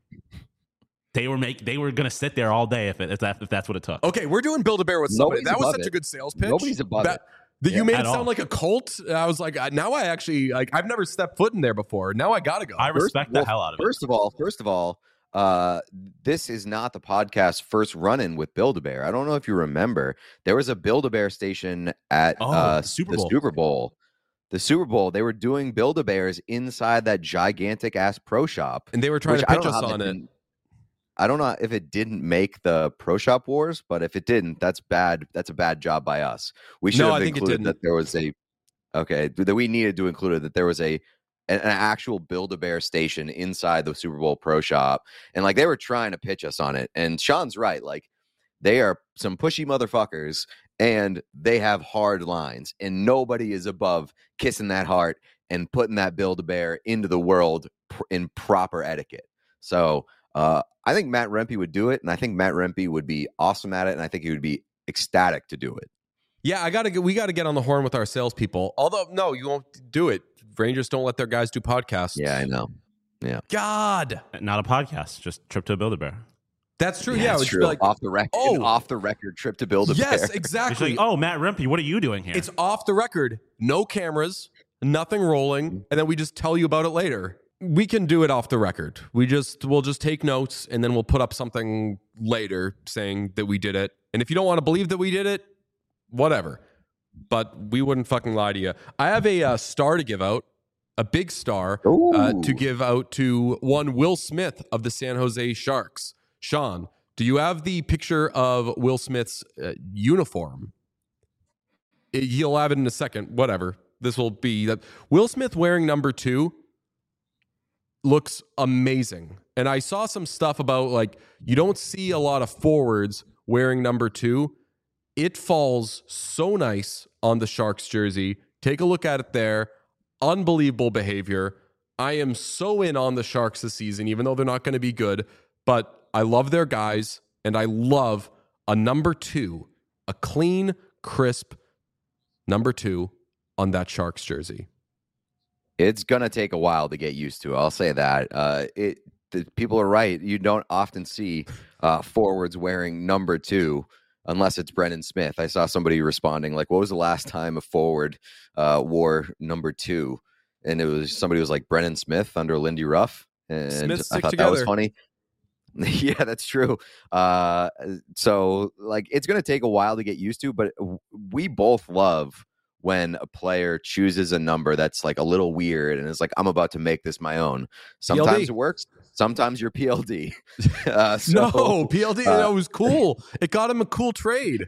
they were make they were gonna sit there all day if it, if that if that's what it took. Okay, we're doing Build a Bear with somebody. Nobody's That was above such it. a good sales pitch. Nobody's above that, it. That Yeah. you made At it sound all. like a cult. I was like, I- now I actually like. I've never stepped foot in there before. Now I gotta go. I respect First- well, the hell out of it. First of all, first of all, uh, this is not the podcast's first run-in with Build-A-Bear. I don't know if you remember, there was a Build-A-Bear station at Oh, uh, the Super the Bowl. Super Bowl. The Super Bowl, they were doing Build-A-Bears inside that gigantic ass pro shop. and they were trying which to I pitch don't know us how that on it. didn't- I don't know if it didn't make the Pro Shop Wars, but if it didn't, that's bad. That's a bad job by us. We should No, have I think it included didn't. that there was a okay that we needed to include it, that there was a an, an actual Build-A-Bear station inside the Super Bowl Pro Shop, and like they were trying to pitch us on it. And Sean's right, like they are some pushy motherfuckers, and they have hard lines, and nobody is above kissing that heart and putting that Build-A-Bear into the world pr- in proper etiquette. So. Uh, I think Matt Rempe would do it, and I think Matt Rempe would be awesome at it, and I think he would be ecstatic to do it. Yeah, I gotta get. We gotta get on the horn with our salespeople. Although, no, you won't do it. Rangers don't let their guys do podcasts. Yeah, I know. God, Not a podcast, just trip to Build-A-Bear. that's true. Yeah, yeah it it's would true. be like, off the record, oh. off the record trip to build a yes, bear. It's exactly. like, oh, Matt Rempe, what are you doing here? It's off the record, no cameras, nothing rolling, and then we just tell you about it later. We can do it off the record. We just we'll just take notes and then we'll put up something later saying that we did it. And if you don't want to believe that we did it, whatever. But we wouldn't fucking lie to you. I have a uh, star to give out, a big star uh, Ooh. to give out to one Will Smith of the San Jose Sharks. Sean, do you have the picture of Will Smith's uh, uniform? It- He'll have it in a second. Whatever. This will be that Will Smith wearing number two looks amazing. And I saw some stuff about like you don't see a lot of forwards wearing number two. It falls so nice on the Sharks jersey. Take a look at it there. Unbelievable behavior. I am so in on the Sharks this season, even though they're not going to be good. But I love their guys, and I love a number two, a clean, crisp number two on that Sharks jersey. It's gonna take a while to get used to. I'll say that. Uh, it the, people are right. You don't often see uh, forwards wearing number two unless it's Brendan Smith. I saw somebody responding like, "What was the last time a forward uh, wore number two?" And it was somebody was like Brendan Smith under Lindy Ruff, and Smiths I stick thought that was together. funny. Yeah, that's true. Uh, so like, it's gonna take a while to get used to, but we both love when a player chooses a number that's like a little weird and is like, I'm about to make this my own. Sometimes P L D. it works. Sometimes you're P L D. Uh, so no, P L D, uh, that was cool. It got him a cool trade.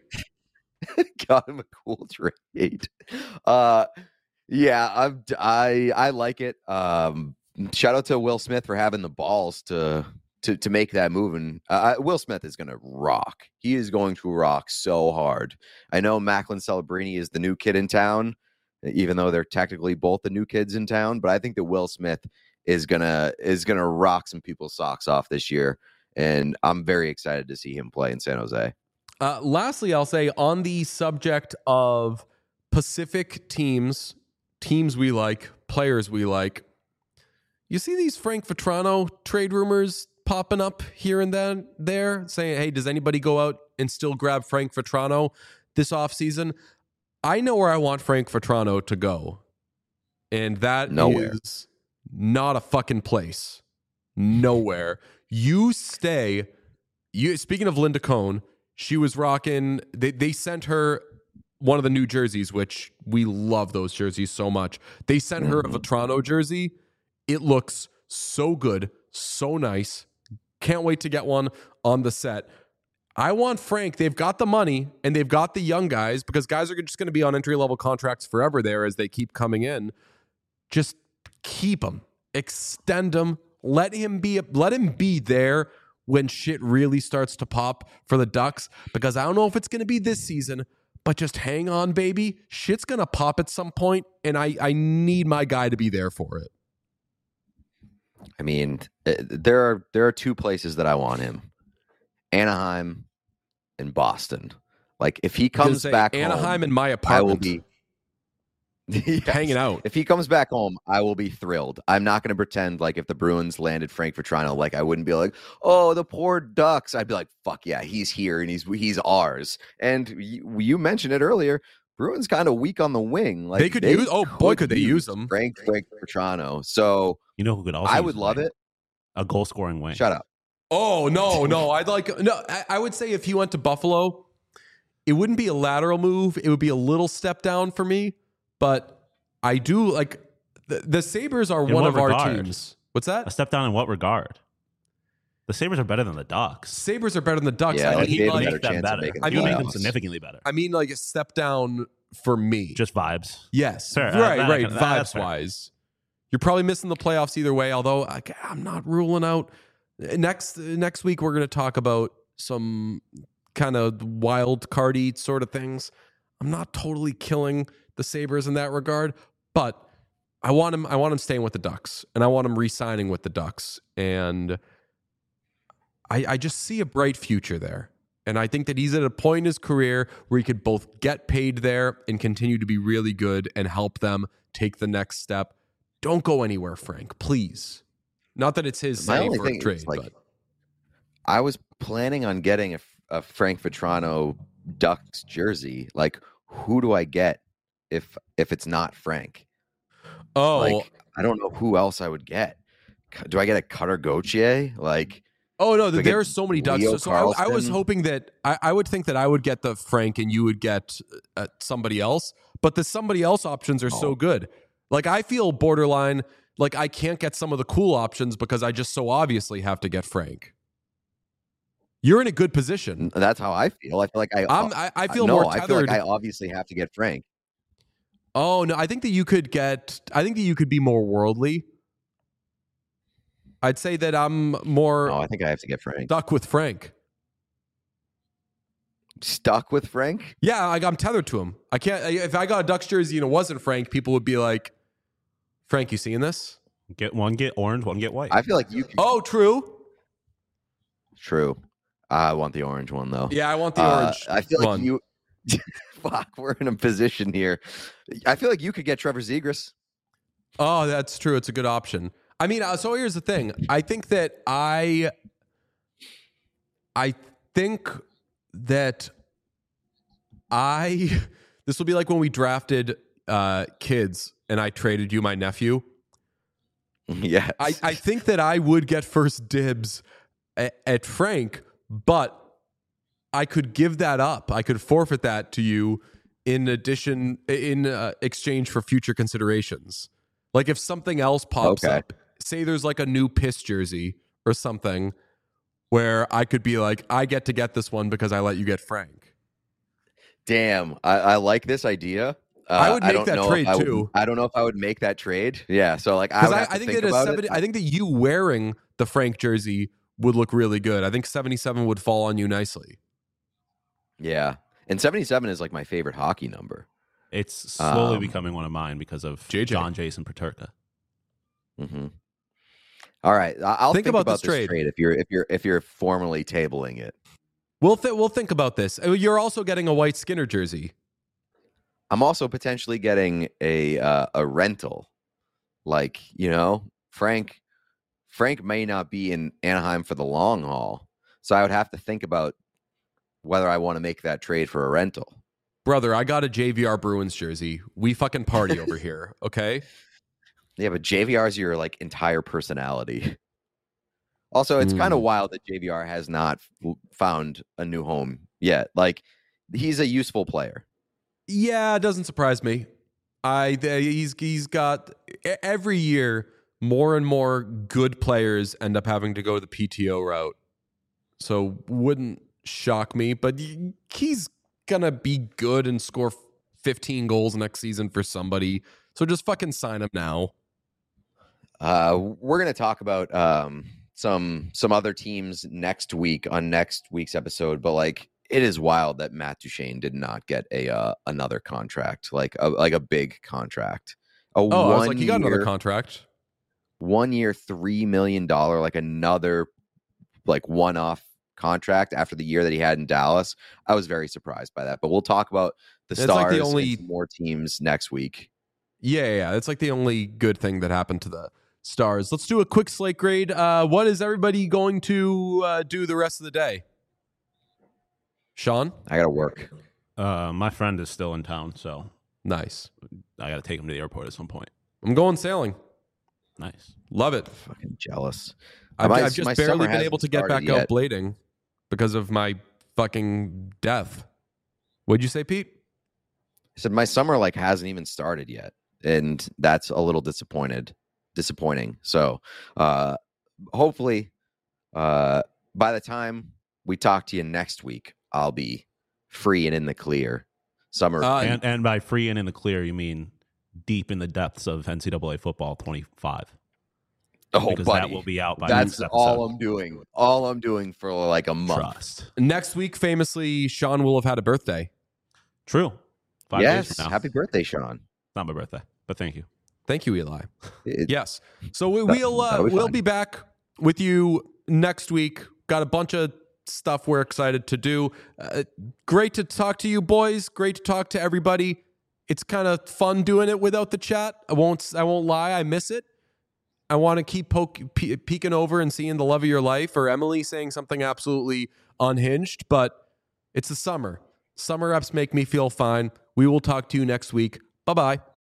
got him a cool trade. Uh, yeah, I'm, I I like it. Um, shout out to Will Smith for having the balls to to to make that move. And uh, Will Smith is going to rock. He is going to rock so hard. I know Macklin Celebrini is the new kid in town, even though they're technically both the new kids in town. But I think that Will Smith is gonna is gonna rock some people's socks off this year, and I'm very excited to see him play in San Jose. Uh, lastly, I'll say on the subject of Pacific teams, teams we like, players we like, you see these Frank Vetrano trade rumors popping up here and then there saying, hey, does anybody go out and still grab Frank Vetrano this offseason? I know where I want Frank Vetrano to go. And that Nowhere. is not a fucking place. Nowhere. You stay. You speaking of Linda Cohn, she was rocking, they, they sent her one of the new jerseys, which we love those jerseys so much. They sent her a Vetrano jersey. It looks so good, so nice. Can't wait to get one on the set. I want Frank. They've got the money and they've got the young guys because guys are just going to be on entry level contracts forever there as they keep coming in. Just keep him, extend him, let him be, let him be there when shit really starts to pop for the Ducks, because I don't know if it's going to be this season, but just hang on, baby. Shit's going to pop at some point, and I, I need my guy to be there for it. I mean, uh, there are there are two places that I want him: Anaheim and Boston. Like, if he I was comes gonna say, back Anaheim home, and my I will apartment. be. Yes. hanging out. If he comes back home, I will be thrilled. I'm not going to pretend like if the Bruins landed Frank Vatrano, like I wouldn't be like, oh, the poor Ducks. I'd be like, fuck yeah, he's here and he's he's ours. And you, you mentioned it earlier. Bruins kind of weak on the wing. Like they could use. Oh boy, could they use them? Frank Frank Vatrano. So You know who could also? I use would a love wing? it. A goal scoring wing. Shut up. Oh no, no. I'd like no. I, I would say if he went to Buffalo, it wouldn't be a lateral move. It would be a little step down for me. But I do like the, the Sabres are In one what of our regard? teams. What's A that? step down in what regard? The Sabres are better than the Ducks. Sabres are better than the Ducks. Yeah, I like, mean, they have a like, better Make them chance of better. making the You make them playoffs. significantly better. I mean, like a step down for me. Just vibes. Yes, Fair. right, That- that- right. that- that's Vibes fair. wise, you're probably missing the playoffs either way. Although I, I'm not ruling out next next week we're going to talk about some kind of wild cardy sort of things. I'm not totally killing the Sabres in that regard, but I want him. I want him staying with the Ducks, and I want him re-signing with the Ducks, and I, I just see a bright future there. And I think that he's at a point in his career where he could both get paid there and continue to be really good and help them take the next step. Don't go anywhere, Frank, please. Not that it's his My say only for thing a is, trade, like, but I was planning on getting a, a Frank Vatrano Ducks jersey. Like, who do I get if if it's not Frank? oh, Like, I don't know who else I would get. C- Do I get a Cutter Gauthier? Like, oh no, like there a are so many Ducks. Leo So, so I, I was Carlson. hoping that I, I would think that I would get the Frank and you would get uh, somebody else, but the somebody else options are so Oh. good. Like I feel borderline. Like I can't get some of the cool options because I just so obviously have to get Frank. You're in a good position. that's how I feel. I feel like I. I'm, I, I feel no, more I tethered. feel like I obviously have to get Frank. Oh no, I think that you could get. I think that you could be more worldly. I'd say that I'm more No, I think I have to get Frank. stuck with Frank. Stuck with Frank? Yeah, like I'm tethered to him. I can't. If I got a Ducks jersey and it wasn't Frank, people would be like, "Frank, you seeing this?" Get one, get orange, one get white. I feel like you. Can, Oh, true. True. I want the orange one though. Yeah, I want the Uh, orange. I feel like one. you. Fuck, we're in a position here. I feel like you could get Trevor Zegras. Oh, that's true. It's a good option. I mean, uh, so here's the thing. I think that I, I think that I, this will be like when we drafted uh, kids and I traded you my nephew. Yes. I, I think that I would get first dibs at, at Frank, but I could give that up. I could forfeit that to you in addition, in uh, exchange for future considerations. Like if something else pops Okay. up, say there's like a new piss jersey or something where I could be like, I get to get this one because I let you get Frank. Damn, I, I like this idea. Uh, I would make don't that know if trade, I would- too. I don't know if I would make that trade. Yeah, so like I Because would I, have to I think think that a about seventy, it. I think that you wearing the Frank jersey would look really good. I think seventy-seven would fall on you nicely. Yeah, and seventy-seven is like my favorite hockey number. It's slowly Um, becoming one of mine because of J J. John Jason Paterka. hmm All right, I- I'll Think think, about about, this this trade. trade. if you're if you're if you're formally tabling it. We'll th- we'll think about this. Uh, You're also getting a White Skinner jersey. I'm also potentially getting a uh, a rental. Like, you know, Frank Frank may not be in Anaheim for the long haul. So I would have to think about whether I want to make that trade for a rental. Brother, I got a J V R Bruins jersey. We fucking party over here, okay? Yeah, but J V R is your like entire personality. Also, it's kind of Mm. wild that J V R has not f- found a new home yet. Like, he's a useful player. Yeah, it doesn't surprise me. I th- he's he's got e- every year more and more good players end up having to go the P T O route. So wouldn't shock me, but y- he's gonna be good and score fifteen goals next season for somebody. So just fucking sign him now. Uh, we're gonna talk about um, some some other teams next week on next week's episode, but like it is wild that Matt Duchene did not get a uh, another contract, like a like a big contract. A Oh, I was like, one you got another year- contract. one year, three million dollar, like another like one off contract after the year that he had in Dallas. I was very surprised by that. But we'll talk about the It's like Stars the only- and some more teams next week. Yeah, yeah, yeah. It's like the only good thing that happened to the Stars. Let's do a quick slate grade. Uh, what is everybody going to uh, do the rest of the day? Sean? I got to work. Uh, my friend is still in town, so Nice. I got to take him to the airport at some point. I'm going sailing. Nice. Love it. Fucking jealous. I've, My- I've just my barely summer been hasn't able to get started back out yet. blading because of my fucking death. What'd you say, Pete? I said my summer like hasn't even started yet, and that's a little disappointed, disappointing. So, uh, hopefully, uh, by the time we talk to you next week, I'll be free and in the clear. Summer, Uh, And and by free and in the clear, you mean deep in the depths of N C double A football twenty-five. oh, Because buddy, that will be out by that's next all episode. I'm doing. All I'm doing for like a month. Trust. Next week, famously, Sean will have had a birthday. True. Five yes, days from now. happy birthday, Sean. Not my birthday, but thank you. Thank you, Eli. It- Yes. So we, That- we'll uh, that'll be we'll fine. be back with you next week. Got a bunch of stuff we're excited to do. Uh, great to talk to you, boys. Great to talk to everybody. It's kind of fun doing it without the chat. I won't. I won't lie. I miss it. I want to keep poke, pe- peeking over and seeing the love of your life, or Emily saying something absolutely unhinged. But it's the summer. Summer ups make me feel fine. We will talk to you next week. Bye bye.